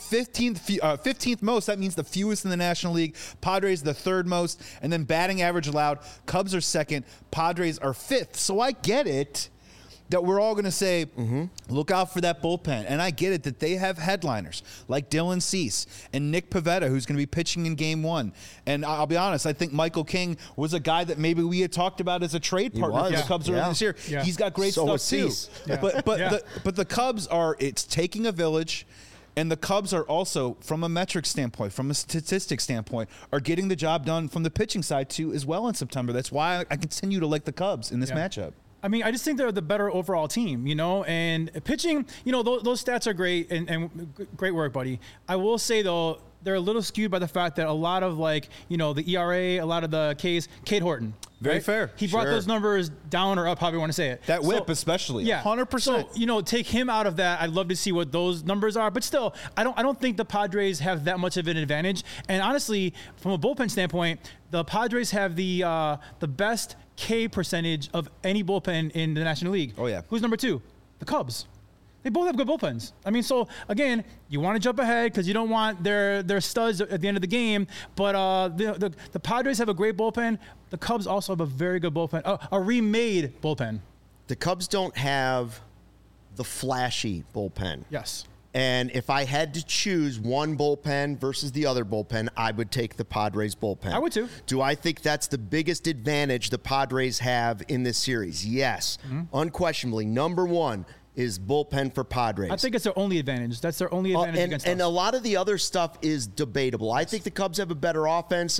15th most. That means the fewest in the National League. Padres, the 3rd most. And then batting average allowed. Cubs are 2nd. Padres are 5th. So I get it that we're all going to say, look out for that bullpen. And I get it that they have headliners like Dylan Cease and Nick Pivetta, who's going to be pitching in Game 1. And I'll be honest, I think Michael King was a guy that maybe we had talked about as a trade partner for the Cubs earlier this year. Yeah. He's got great stuff too. Yeah. But the Cubs it's taking a village. And the Cubs are also, from a metric standpoint, from a statistic standpoint, are getting the job done from the pitching side too as well in September. That's why I continue to like the Cubs in this matchup. I mean, I just think they're the better overall team, and pitching, those stats are great and great work, buddy. I will say, though, they're a little skewed by the fact that a lot of, the ERA, a lot of the Ks, Cade Horton. Very fair. He brought those numbers down or up, however you want to say it. That whip especially. Yeah. 100%. So, take him out of that. I'd love to see what those numbers are. But still, I don't think the Padres have that much of an advantage. And honestly, from a bullpen standpoint, the Padres have the best K percentage of any bullpen in the National League. Oh, yeah. Who's number 2? The Cubs. They both have good bullpens. I mean, so again, you want to jump ahead because you don't want their studs at the end of the game. But the Padres have a great bullpen. The Cubs also have a very good bullpen, a remade bullpen. The Cubs don't have the flashy bullpen. Yes. And if I had to choose one bullpen versus the other bullpen, I would take the Padres bullpen. I would too. Do I think that's the biggest advantage the Padres have in this series? Yes. Unquestionably. Number 1 is bullpen for Padres. I think it's their only advantage. That's their only advantage against us. And a lot of the other stuff is debatable. I think the Cubs have a better offense,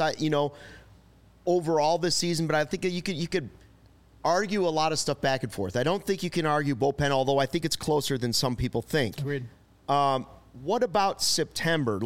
overall this season, but I think you could argue a lot of stuff back and forth. I don't think you can argue bullpen, although I think it's closer than some people think. Agreed. What about September?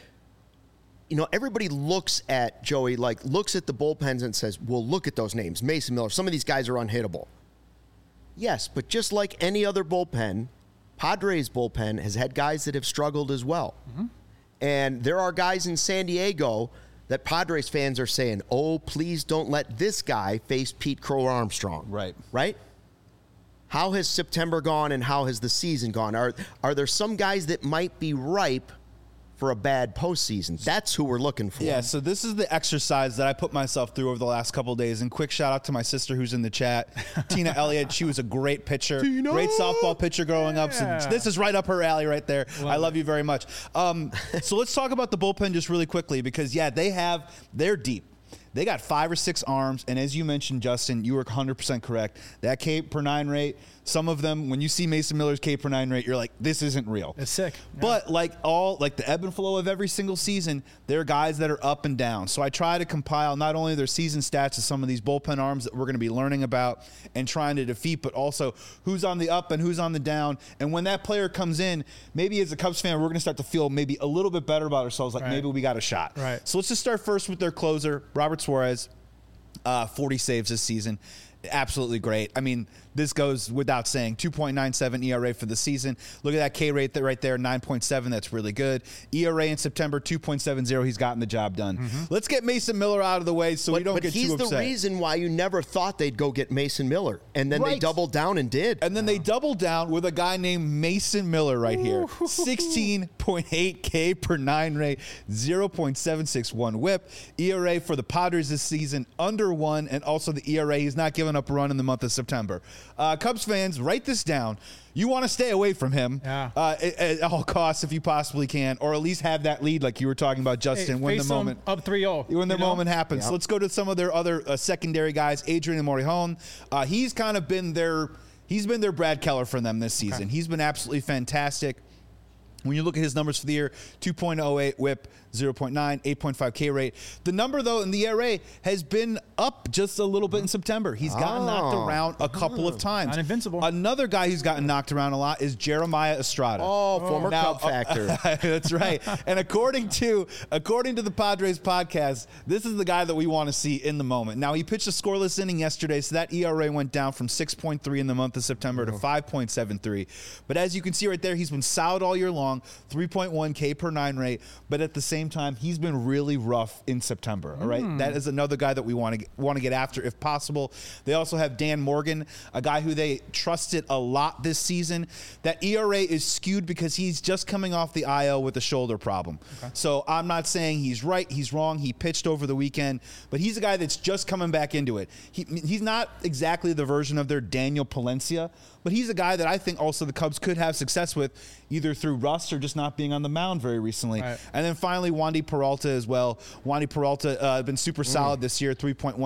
Everybody looks at Joey, looks at the bullpens and says, well, look at those names. Mason Miller, some of these guys are unhittable. Yes, but just like any other bullpen, Padres bullpen has had guys that have struggled as well. And there are guys in San Diego that Padres fans are saying, oh, please don't let this guy face Pete Crow Armstrong. Right? How has September gone and how has the season gone? Are there some guys that might be ripe for a bad postseason? That's who we're looking for. Yeah, so this is the exercise that I put myself through over the last couple of days. And quick shout out to my sister who's in the chat, Tina Elliott. She was a great pitcher, great softball pitcher growing up. So this is right up her alley right there. I love you very much. So let's talk about the bullpen just really quickly because, they're deep. They got 5 or 6 arms, and as you mentioned, Justin, you were 100% correct. That K per 9 rate, some of them, when you see Mason Miller's K per 9 rate, you're like, this isn't real. It's sick. Yeah. But like the ebb and flow of every single season, there are guys that are up and down. So I try to compile not only their season stats of some of these bullpen arms that we're going to be learning about and trying to defeat, but also who's on the up and who's on the down. And when that player comes in, maybe as a Cubs fan, we're going to start to feel maybe a little bit better about ourselves, like maybe we got a shot. Right. So let's just start first with their closer, Robert Suarez, 40 saves this season. Absolutely great. I mean, this goes without saying. 2.97 ERA for the season. Look at that K rate right there, 9.7. That's really good. ERA in September, 2.70. He's gotten the job done. Let's get Mason Miller out of the way so we don't get too upset. But he's the reason why you never thought they'd go get Mason Miller. And then they doubled down and did. And then they doubled down with a guy named Mason Miller right here. 16.8 K per 9 rate, 0.761 whip. ERA for the Padres this season, under 1. And also the ERA, he's not giving up a run in the month of September. Cubs fans, write this down. You want to stay away from him at all costs if you possibly can, or at least have that lead like you were talking about, Justin, when the moment up 3-0. When the moment happens. Yep. So let's go to some of their other secondary guys. Adrian Morejon. He's kind of been their Brad Keller for them this season. He's been absolutely fantastic. When you look at his numbers for the year, 2.08 whip, 0.9, 8.5 K rate. The number, though, in the ERA has been up just a little bit in September. He's gotten knocked around a couple of times. Not invincible. Another guy who's gotten knocked around a lot is Jeremiah Estrada. Former Cub factor. That's right. And according to the Padres podcast, this is the guy that we want to see in the moment. Now, he pitched a scoreless inning yesterday, so that ERA went down from 6.3 in the month of September to 5.73. But as you can see right there, he's been solid all year long, 3.1 K per 9 rate, but at the same time, he's been really rough in September. All right, that is another guy that we want to get after if possible. They also have Dan Morgan, a guy who they trusted a lot this season. That ERA is skewed because he's just coming off the IL with a shoulder problem. So I'm not saying he's right, he's wrong. He pitched over the weekend, but he's a guy that's just coming back into it. He's not exactly the version of their Daniel Palencia, but he's a guy that I think also the Cubs could have success with, either through rust or just not being on the mound very recently. Right. And then finally, Wandy Peralta as well. Wandy Peralta has been super solid this year, 3.14,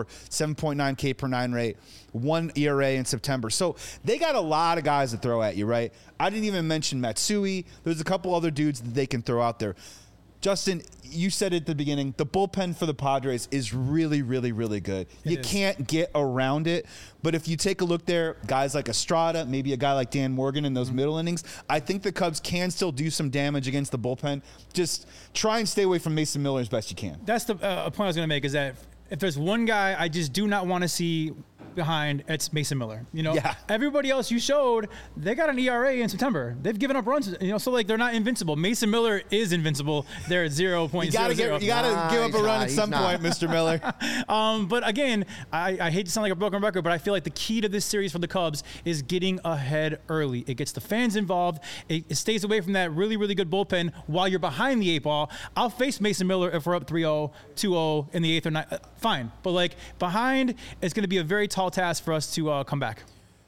7.9 K per 9 rate, 1 ERA in September. So they got a lot of guys to throw at you, right? I didn't even mention Matsui. There's a couple other dudes that they can throw out there. Justin, you said it at the beginning, the bullpen for the Padres is really, really, really good. You can't get around it. But if you take a look there, guys like Estrada, maybe a guy like Dan Morgan in those middle innings, I think the Cubs can still do some damage against the bullpen. Just try and stay away from Mason Miller as best you can. That's the point I was going to make, is that if there's one guy I just do not want to see behind, it's Mason Miller. Everybody else you showed, they got an ERA in September. They've given up runs, so like they're not invincible. Mason Miller is invincible. They're at 0.00. You gotta give up a run at some point, Mr. Miller. But again, I hate to sound like a broken record, but I feel like the key to this series for the Cubs is getting ahead early. It gets the fans involved. It stays away from that really, really good bullpen while you're behind the 8-ball. I'll face Mason Miller if we're up 3-0, 2-0 in the 8th or 9th. Fine. But like behind, it's going to be a very tall task for us to come back.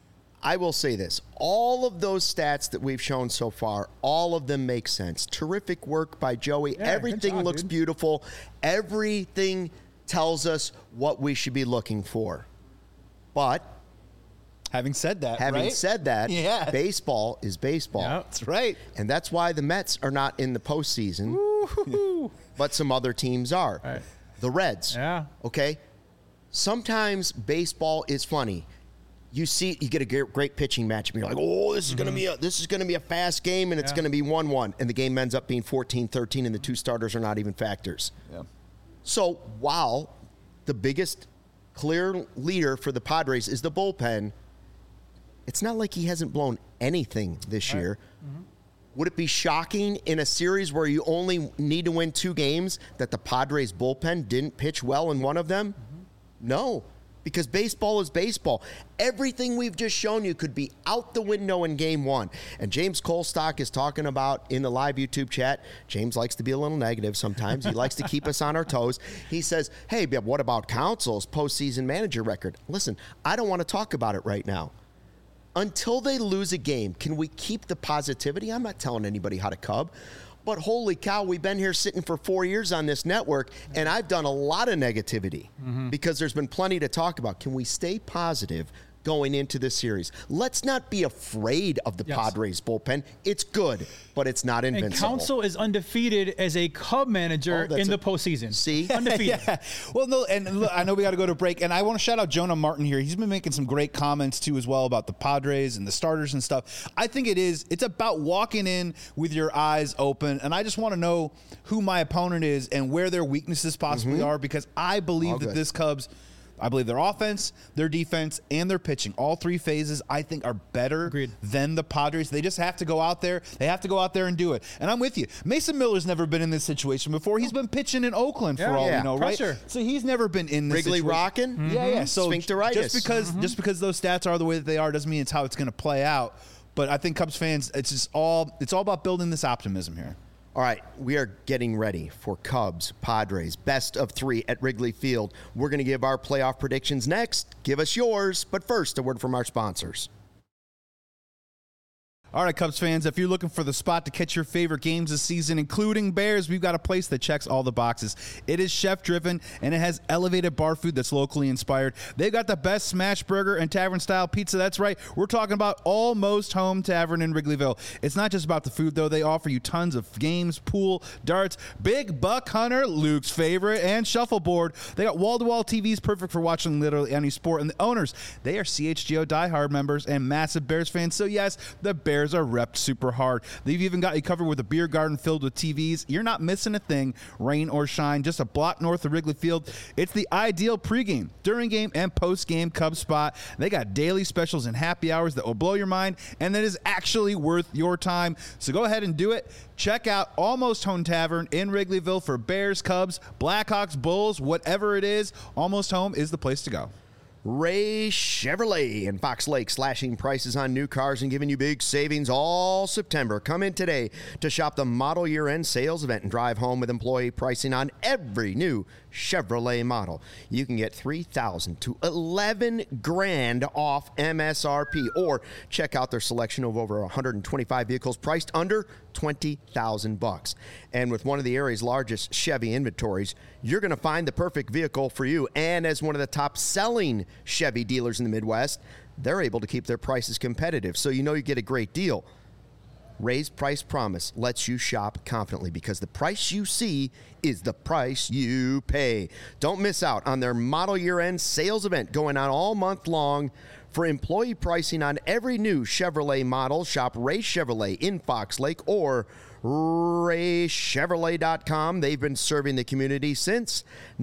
I will say this. All of those stats that we've shown so far, all of them make sense. Terrific work by Joey. Yeah, Everything looks dude. beautiful. Everything tells us what we should be looking for. But Having said that, yeah. Baseball is baseball. Yeah. That's right. And that's why the Mets are not in the postseason, but some other teams are. Right. The Reds. Yeah. Okay? Sometimes baseball is funny. You get a great pitching match, and you're like, "Oh, this is going to be a fast game, and it's going to be 1-1," and the game ends up being 14-13, and the two starters are not even factors. Yeah. So while the biggest clear leader for the Padres is the bullpen, it's not like he hasn't blown anything this year. Would it be shocking in a series where you only need to win 2 games that the Padres bullpen didn't pitch well in one of them? No, because baseball is baseball. Everything we've just shown you could be out the window in game 1. And James Colstock is talking about in the live YouTube chat. James likes to be a little negative sometimes. He likes to keep us on our toes. He says, hey, but what about Council's postseason manager record? Listen, I don't want to talk about it right now. Until they lose a game, can we keep the positivity? I'm not telling anybody how to Cub. But holy cow, we've been here sitting for 4 years on this network, and I've done a lot of negativity because there's been plenty to talk about. Can we stay positive going into this series? Let's not be afraid of the Padres bullpen. It's good, but it's not invincible. And Counsell is undefeated as a Cub manager in the postseason. See? Undefeated. Yeah. Well, no, and look, I know we got to go to break, and I want to shout out Jonah Martin here. He's been making some great comments, too, as well about the Padres and the starters and stuff. I think it's about walking in with your eyes open, and I just want to know who my opponent is and where their weaknesses possibly are, because I believe that this Cubs – I believe their offense, their defense, and their pitching, all three phases, I think are better than the Padres. They just have to go out there. They have to go out there and do it. And I'm with you. Mason Miller's never been in this situation before. He's been pitching in Oakland for all we know, right? So he's never been in this Wrigley situation. rocking? Yeah. So sphincteritis. Just because those stats are the way that they are doesn't mean it's how it's going to play out. But I think Cubs fans, it's all about building this optimism here. All right, we are getting ready for Cubs, Padres, best of 3 at Wrigley Field. We're going to give our playoff predictions next. Give us yours. But first, a word from our sponsors. All right, Cubs fans, if you're looking for the spot to catch your favorite games this season, including Bears, we've got a place that checks all the boxes. It is chef-driven, and it has elevated bar food that's locally inspired. They've got the best smash burger and tavern-style pizza. That's right. We're talking about Almost Home Tavern in Wrigleyville. It's not just about the food, though. They offer you tons of games, pool, darts, big buck hunter, Luke's favorite, and shuffleboard. They got wall-to-wall TVs perfect for watching literally any sport. And the owners, they are CHGO diehard members and massive Bears fans. So, yes, the Bears are repped super hard. They've even got you covered with a beer garden filled with TVs. You're not missing a thing, rain or shine. Just a block north of Wrigley Field. It's the ideal pregame, during game, and post-game Cubs spot. They got daily specials and happy hours that will blow your mind, and that is actually worth your time. So go ahead and do it. Check out Almost Home Tavern in Wrigleyville for Bears, Cubs, Blackhawks, Bulls, whatever it is. Almost Home is the place to go. Ray Chevrolet in Fox Lake, slashing prices on new cars and giving you big savings all September. Come in today to shop the model year-end sales event and drive home with employee pricing on every new Chevrolet model. You can get $3,000 to $11,000 off MSRP, or check out their selection of over 125 vehicles priced under $20,000. And with one of the area's largest Chevy inventories, you're going to find the perfect vehicle for you. And as one of the top selling Chevy dealers in the Midwest, they're able to keep their prices competitive, so you know you get a great deal. Ray's Price Promise lets you shop confidently, because the price you see is the price you pay. Don't miss out on their model year-end sales event going on all month long. For employee pricing on every new Chevrolet model, shop Ray Chevrolet in Fox Lake or raychevrolet.com. They've been serving the community since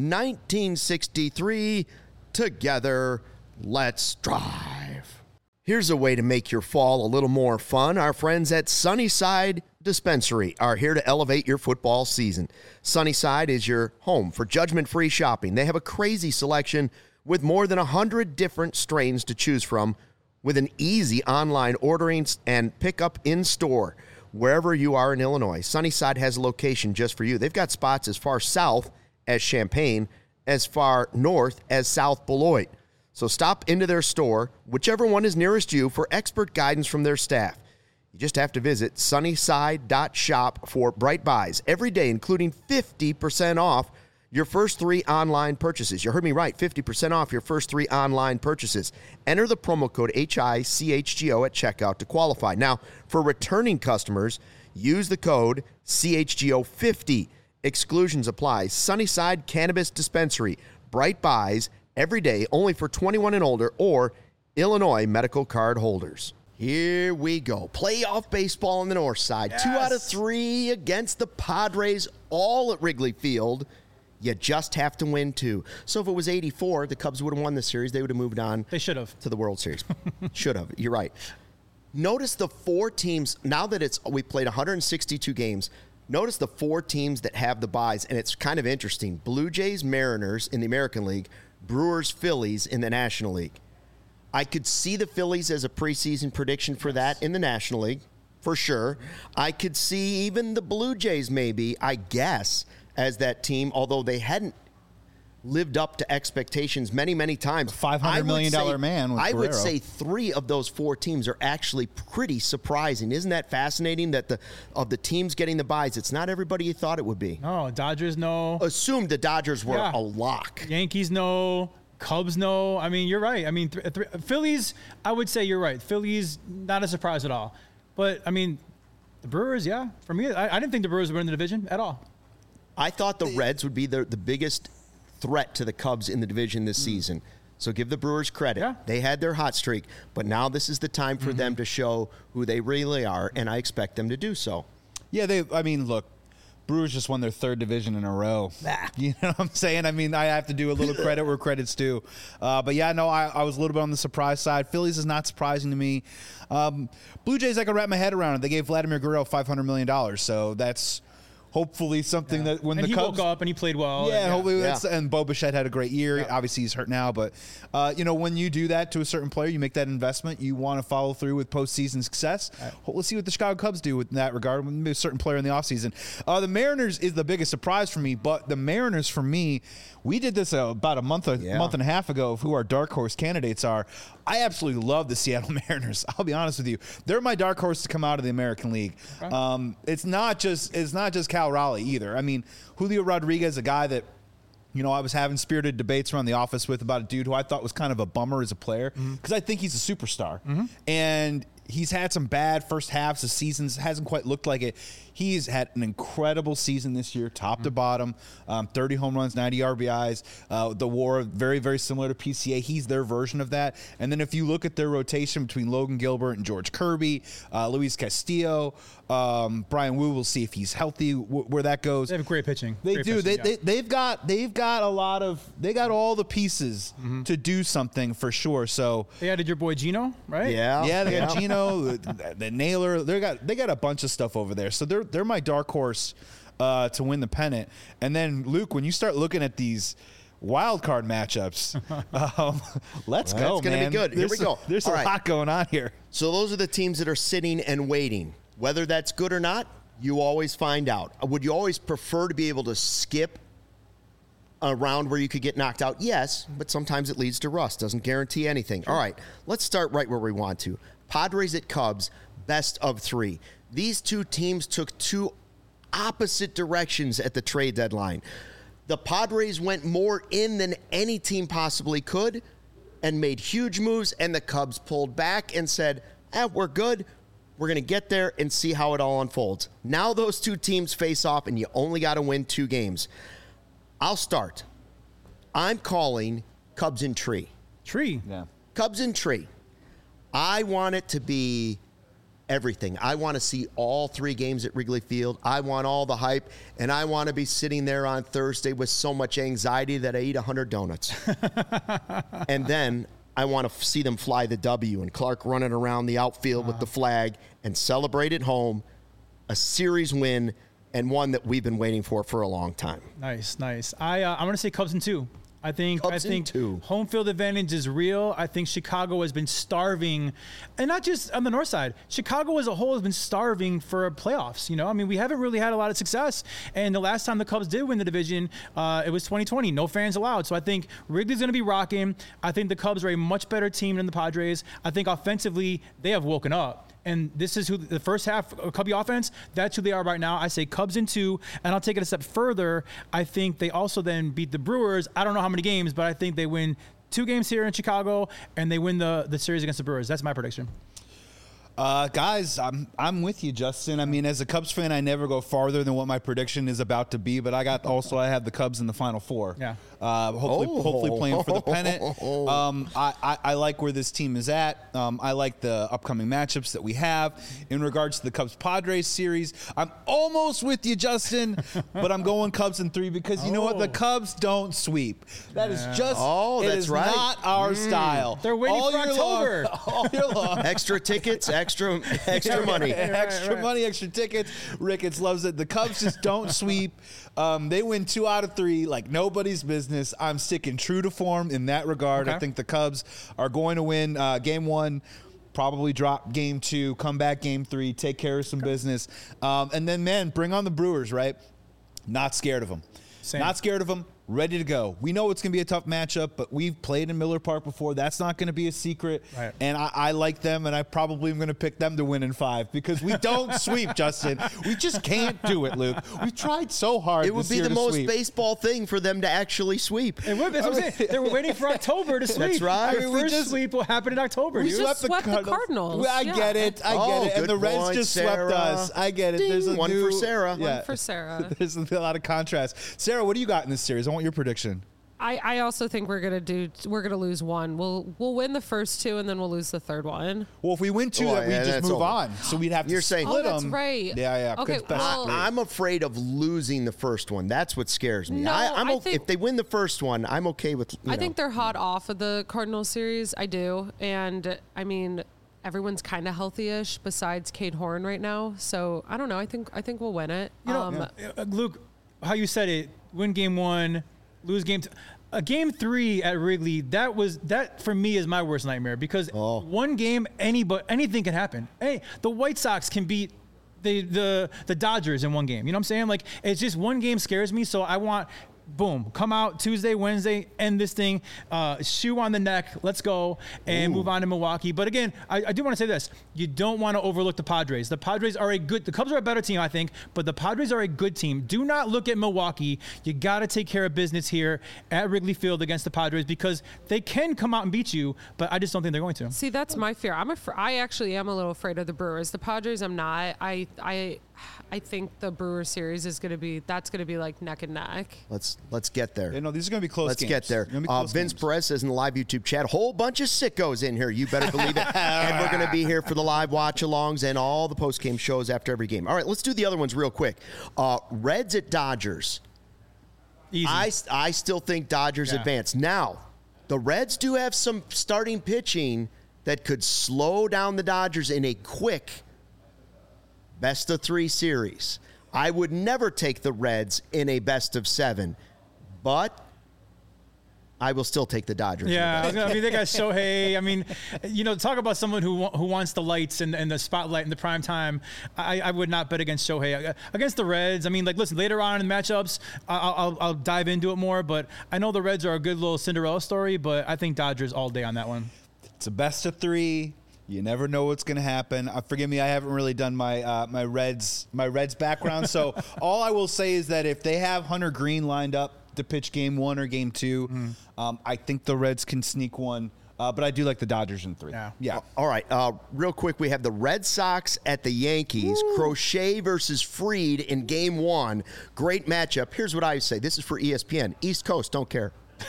1963. Together, let's drive. Here's a way to make your fall a little more fun. Our friends at Sunnyside Dispensary are here to elevate your football season. Sunnyside is your home for judgment-free shopping. They have a crazy selection with more than 100 different strains to choose from, with an easy online ordering and pickup in-store wherever you are in Illinois. Sunnyside has a location just for you. They've got spots as far south as Champaign, as far north as South Beloit. So stop into their store, whichever one is nearest you, for expert guidance from their staff. You just have to visit sunnyside.shop for bright buys every day, including 50% off your first 3 online purchases. You heard me right, 50% off your first 3 online purchases. Enter the promo code HICHGO at checkout to qualify. Now, for returning customers, use the code CHGO50. Exclusions apply. Sunnyside Cannabis Dispensary. Bright buys every day, only for 21 and older or Illinois medical card holders. Here we go. Playoff baseball on the north side. Yes. 2 out of 3 against the Padres, all at Wrigley Field. You just have to win 2. So if it was 84, the Cubs would have won the series. They would have moved on. They should have. To the World Series. Should have. You're right. Notice the 4 teams, now that we played 162 games, notice the 4 teams that have the byes, and it's kind of interesting. Blue Jays, Mariners in the American League, Brewers, Phillies in the National League. I could see the Phillies as a preseason prediction for that in the National League, for sure. I could see even the Blue Jays maybe, I guess, as that team, although they hadn't lived up to expectations many times. $500 million man with I would Guerrero. say 3 of those 4 teams are actually pretty surprising. Isn't that fascinating that of the teams getting the buys, it's not everybody you thought it would be. No, Dodgers no. Assumed the Dodgers were Yeah. a lock. Yankees no. Cubs no. I mean, you're right. I mean, Phillies, I would say you're right. Phillies, not a surprise at all. But, I mean, the Brewers, yeah. For me, I didn't think the Brewers would win the division at all. I thought the Reds would be the biggest threat to the Cubs in the division this season. So give the Brewers credit. Yeah. They had their hot streak, but now this is the time for them to show who they really are, and I expect them to do so. Yeah, look, Brewers just won their 3rd division in a row. You know what I'm saying? I mean, I have to do a little credit where credit's due. But yeah, no, I was a little bit on the surprise side. Phillies is not surprising to me. Blue Jays, I can wrap my head around it. They gave Vladimir Guerrero $500 million, so that's hopefully something that when And the he Cubs woke up and he played well. Yeah, and, hopefully Yeah. that's and Bo Bichette had a great year. Obviously, he's hurt now, but when you do that to a certain player, you make that investment. You want to follow through with postseason success. Let's see what the Chicago Cubs do in that regard. Maybe a certain player in the offseason. The Mariners is the biggest surprise for me, but the Mariners for me, we did this about a month and a half ago of who our dark horse candidates are. I absolutely love the Seattle Mariners. I'll be honest with you; they're my dark horse to come out of the American League. Okay. It's not just Cal Raleigh either. I mean, Julio Rodriguez, a guy that I was having spirited debates around the office with about a dude who I thought was kind of a bummer as a player because I think he's a superstar, and he's had some bad first halves of seasons. Hasn't quite looked like it. He's had an incredible season this year, top to bottom, 30 home runs, 90 RBIs. The WAR, very, very similar to PCA. He's their version of that. And then if you look at their rotation between Logan Gilbert and George Kirby, Luis Castillo, Brian Wu, we'll see if he's healthy, where that goes. They have great pitching. They Great do. pitching, They've got all the pieces to do something for sure. So They added your boy Gino, right? yeah, they got Gino, the Naylor. They got a bunch of stuff over there. So they're my dark horse to win the pennant. And then Luke, when you start looking at these wild card matchups, let's go, It's going to man. be good. Here we go. There's All a right. lot going on here. So those are the teams that are sitting and waiting. Whether that's good or not, you always find out. Would you always prefer to be able to skip a round where you could get knocked out? Yes, but sometimes it leads to rust. Doesn't guarantee anything. All right, let's start right where we want to. Padres at Cubs, best of 3. These two teams took 2 opposite directions at the trade deadline. The Padres went more in than any team possibly could and made huge moves, and the Cubs pulled back and said, we're good. We're going to get there and see how it all unfolds. Now those two teams face off, and you only got to win 2 games. I'll start. I'm calling Cubs in tree. Tree. Yeah. Cubs in tree. I want it to be everything. I want to see all 3 games at Wrigley Field. I want all the hype, and I want to be sitting there on Thursday with so much anxiety that I eat 100 donuts. And then I want to see them fly the W and Clark running around the outfield with the flag and celebrate at home, a series win, and one that we've been waiting for a long time. Nice. I'm going to say Cubs in 2. I think Cubs in 2. home field advantage is real. I think Chicago has been starving, and not just on the north side. Chicago as a whole has been starving for playoffs. I mean, we haven't really had a lot of success. And the last time the Cubs did win the division, it was 2020. No fans allowed. So I think Wrigley's going to be rocking. I think the Cubs are a much better team than the Padres. I think offensively they have woken up. And this is who the first half of Cubby offense, that's who they are right now. I say Cubs in 2, and I'll take it a step further. I think they also then beat the Brewers. I don't know how many games, but I think they win 2 games here in Chicago, and they win the series against the Brewers. That's my prediction. Guys, I'm with you, Justin. I mean, as a Cubs fan, I never go farther than what my prediction is about to be. But I have the Cubs in the Final Four. Yeah. Hopefully playing for the pennant. I like where this team is at. I like the upcoming matchups that we have. In regards to the Cubs-Padres series, I'm almost with you, Justin, but I'm going Cubs in 3 because you know what? The Cubs don't sweep. That is just it that's is right. not our style. They're waiting for year October. All year long. Extra tickets, extra money. Extra money, extra tickets. Ricketts loves it. The Cubs just don't sweep. They win 2 out of 3 like nobody's business. I'm sticking true to form in that regard. Okay. I think the Cubs are going to win Game 1, probably drop Game 2, come back Game 3, take care of some business. And then, man, bring on the Brewers, right? Not scared of them. Same. Not scared of them. ready to go. We know it's going to be a tough matchup, but we've played in Miller Park before. That's not going to be a secret. Right. And I like them, and I probably am going to pick them to win in 5 because we don't sweep, Justin. We just can't do it, Luke. We've tried so hard. It would be the most baseball thing for them to actually sweep. It would. That's what I'm saying. They were waiting for October to sweep. That's right. The first sweep will happen in October. We dude. just swept the Cardinals. Well, I get it. I get it. And good the Reds point, just Sarah. swept us. I get it. Ding. There's a One new, for Sarah. Yeah. One for Sarah. There's a lot of contrast. Sarah, what do you got in this series? I want your prediction. I also think we're gonna lose one. We'll win the first 2 and then we'll lose the third one. Well, if we win 2, Oh, that we yeah, just that's move over. on. So we'd have to You're saying- split Oh, that's them. right. Yeah. Okay, Good best well- of 3. I'm afraid of losing the first one. That's what scares me. No, I think- if they win the first one, I'm okay with. I think they're hot off of the Cardinals series. I do, and I mean everyone's kind of healthy-ish besides Cade Horn right now. So I don't know. I think we'll win it. You know, Luke, how you said it: win game 1, lose game 2. Game 3 at Wrigley, that for me is my worst nightmare because one game, anything can happen. Hey, the White Sox can beat the Dodgers in one game. You know what I'm saying? Like, it's just one game scares me. So I want, boom, come out Tuesday, Wednesday, end this thing, shoe on the neck, let's go, and move on to Milwaukee. But again, I do want to say this. You don't want to overlook the Padres. The Padres are the Cubs are a better team, I think, but the Padres are a good team. Do not look at Milwaukee. You got to take care of business here at Wrigley Field against the Padres because they can come out and beat you, but I just don't think they're going to. See, that's my fear. I actually am a little afraid of the Brewers. The Padres, I'm not. I think the Brewers series is going to be like neck and neck. Let's get there. Yeah, no, these are going to be close Let's games. get there. They're gonna be close Vince games. Perez says in the live YouTube chat, whole bunch of sickos in here. You better believe it. And we're going to be here for the live watch-alongs and all the post-game shows after every game. All right, let's do the other ones real quick. Reds at Dodgers. Easy. I still think Dodgers advance. Now, the Reds do have some starting pitching that could slow down the Dodgers in a quick best-of-3 series. I would never take the Reds in a best-of-7, but I will still take the Dodgers. Yeah, I mean, they got Shohei. I mean, talk about someone who wants the lights and the spotlight in the prime time. I would not bet against Shohei. Against the Reds, I mean, like, listen, later on in the matchups, I'll dive into it more, but I know the Reds are a good little Cinderella story, but I think Dodgers all day on that one. It's a best-of-3. You never know what's going to happen. Forgive me, I haven't really done my Reds background. So all I will say is that if they have Hunter Green lined up to pitch game 1 or game 2, I think the Reds can sneak one. But I do like the Dodgers in 3. Yeah. All right. Real quick, we have the Red Sox at the Yankees. Crochet versus Fried in game 1. Great matchup. Here's what I say. This is for ESPN. East Coast, don't care.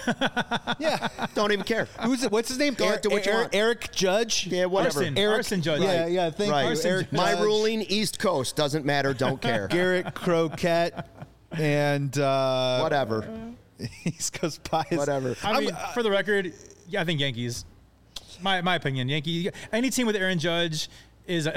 Yeah. Don't even care. Who's it? What's his name? Go do what you want. Eric Judge? Yeah, whatever. Arson Judge. Yeah, thank Right. you. Eric My Judge, ruling, East Coast, doesn't matter, don't care. Garrett Croquette, and Whatever. East Coast Pies. Whatever. I mean, for the record, I think Yankees. My opinion, Yankee. Any team with Aaron Judge is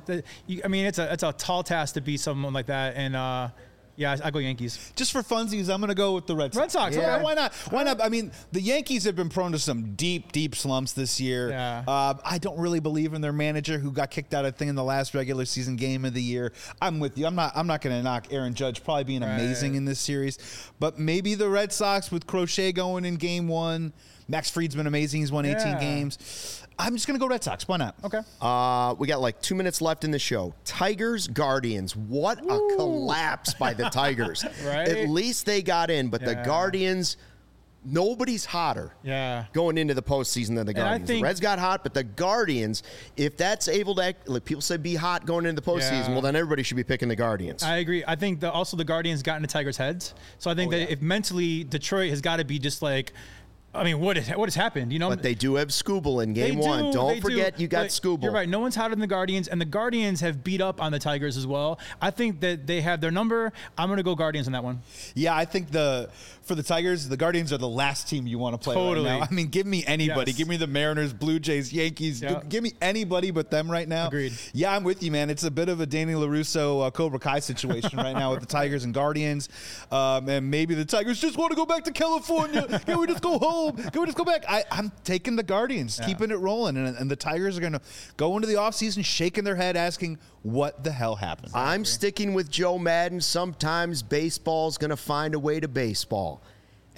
I mean, it's a tall task to beat someone like that, and yeah, I go Yankees. Just for funsies, I'm going to go with the Red Sox. Red Sox, Yeah, okay. why not? Why not? I mean, the Yankees have been prone to some deep slumps this year. Yeah. I don't really believe in their manager who got kicked out, I think, in the last regular season game of the year. I'm with you. I'm not going to knock Aaron Judge probably being amazing in this series, but maybe the Red Sox with Crochet going in game 1. Max Fried's been amazing. He's won 18 games. I'm just going to go Red Sox. Why not? Okay. We got like 2 minutes left in the show. Tigers, Guardians. What a collapse by the Tigers. Right? At least they got in, but the Yeah. Guardians, nobody's hotter Yeah. going into the postseason than the I Guardians. think- The Reds got hot, but the Guardians, if that's able to act, like people say be hot going into the postseason, Yeah. well, then everybody should be picking the Guardians. I agree. I think also the Guardians got into Tigers' heads. So I think that if mentally Detroit has got to be just like, I mean, what has happened? You know, But they do have Skubal in They game 1. do, Don't they forget do, you got but Skubal. You're right. No one's hotter than the Guardians, and the Guardians have beat up on the Tigers as well. I think that they have their number. I'm going to go Guardians on that one. Yeah, I think for the Tigers, the Guardians are the last team you want to play Totally. right now. I mean, give me anybody. Yes. Give me the Mariners, Blue Jays, Yankees. Yeah. Give me anybody but them right now. Agreed. Yeah, I'm with you, man. It's a bit of a Danny LaRusso, Cobra Kai situation right now with the Tigers and Guardians. And maybe the Tigers just want to go back to California. Can we just go home? Can we just go back? I'm taking the Guardians, keeping it rolling. And the Tigers are going to go into the offseason shaking their head, asking, what the hell happened? I'm sticking with Joe Madden. Sometimes baseball's going to find a way to baseball.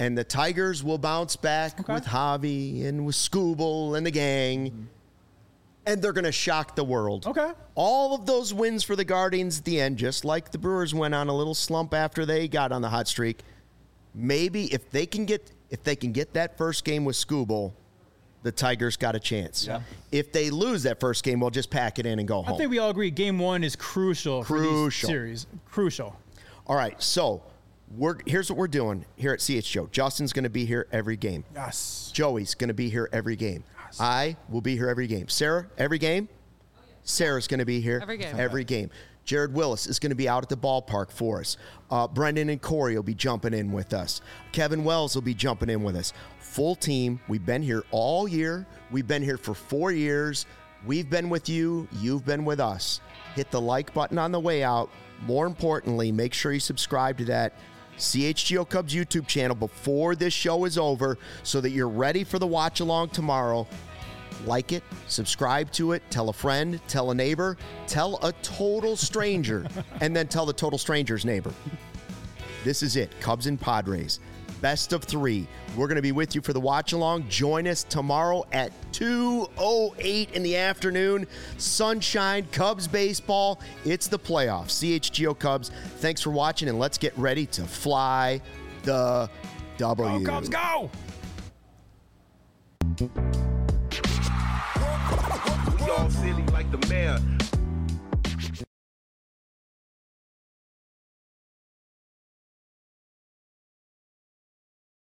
And the Tigers will bounce back with Javi and with Scooble and the gang. And they're going to shock the world. Okay. All of those wins for the Guardians at the end, just like the Brewers went on a little slump after they got on the hot streak. Maybe if they can get that first game with Scooble, the Tigers got a chance. Yeah. If they lose that first game, we'll just pack it in and go home. I think we all agree Game 1 is crucial for these series. Crucial. All right, so here's what we're doing here at CHGO. Justin's going to be here every game. Yes. Joey's going to be here every game. Yes. I will be here every game. Sarah, every game? Sarah's going to be here every game. Jared Willis is going to be out at the ballpark for us. Brendan and Corey will be jumping in with us. Kevin Wells will be jumping in with us. Full team. We've been here all year. We've been here for 4 years. We've been with you. You've been with us. Hit the like button on the way out. More importantly, make sure you subscribe to that CHGO Cubs YouTube channel before this show is over so that you're ready for the watch along tomorrow. Like it, subscribe to it, tell a friend, tell a neighbor, tell a total stranger, and then tell the total stranger's neighbor. This is it, Cubs and Padres. Best of 3. We're going to be with you for the watch along. Join us tomorrow at 2:08 in the afternoon. Sunshine, Cubs baseball. It's the playoffs. CHGO Cubs. Thanks for watching, and let's get ready to fly the W. Go Cubs, go! We all silly like the mayor.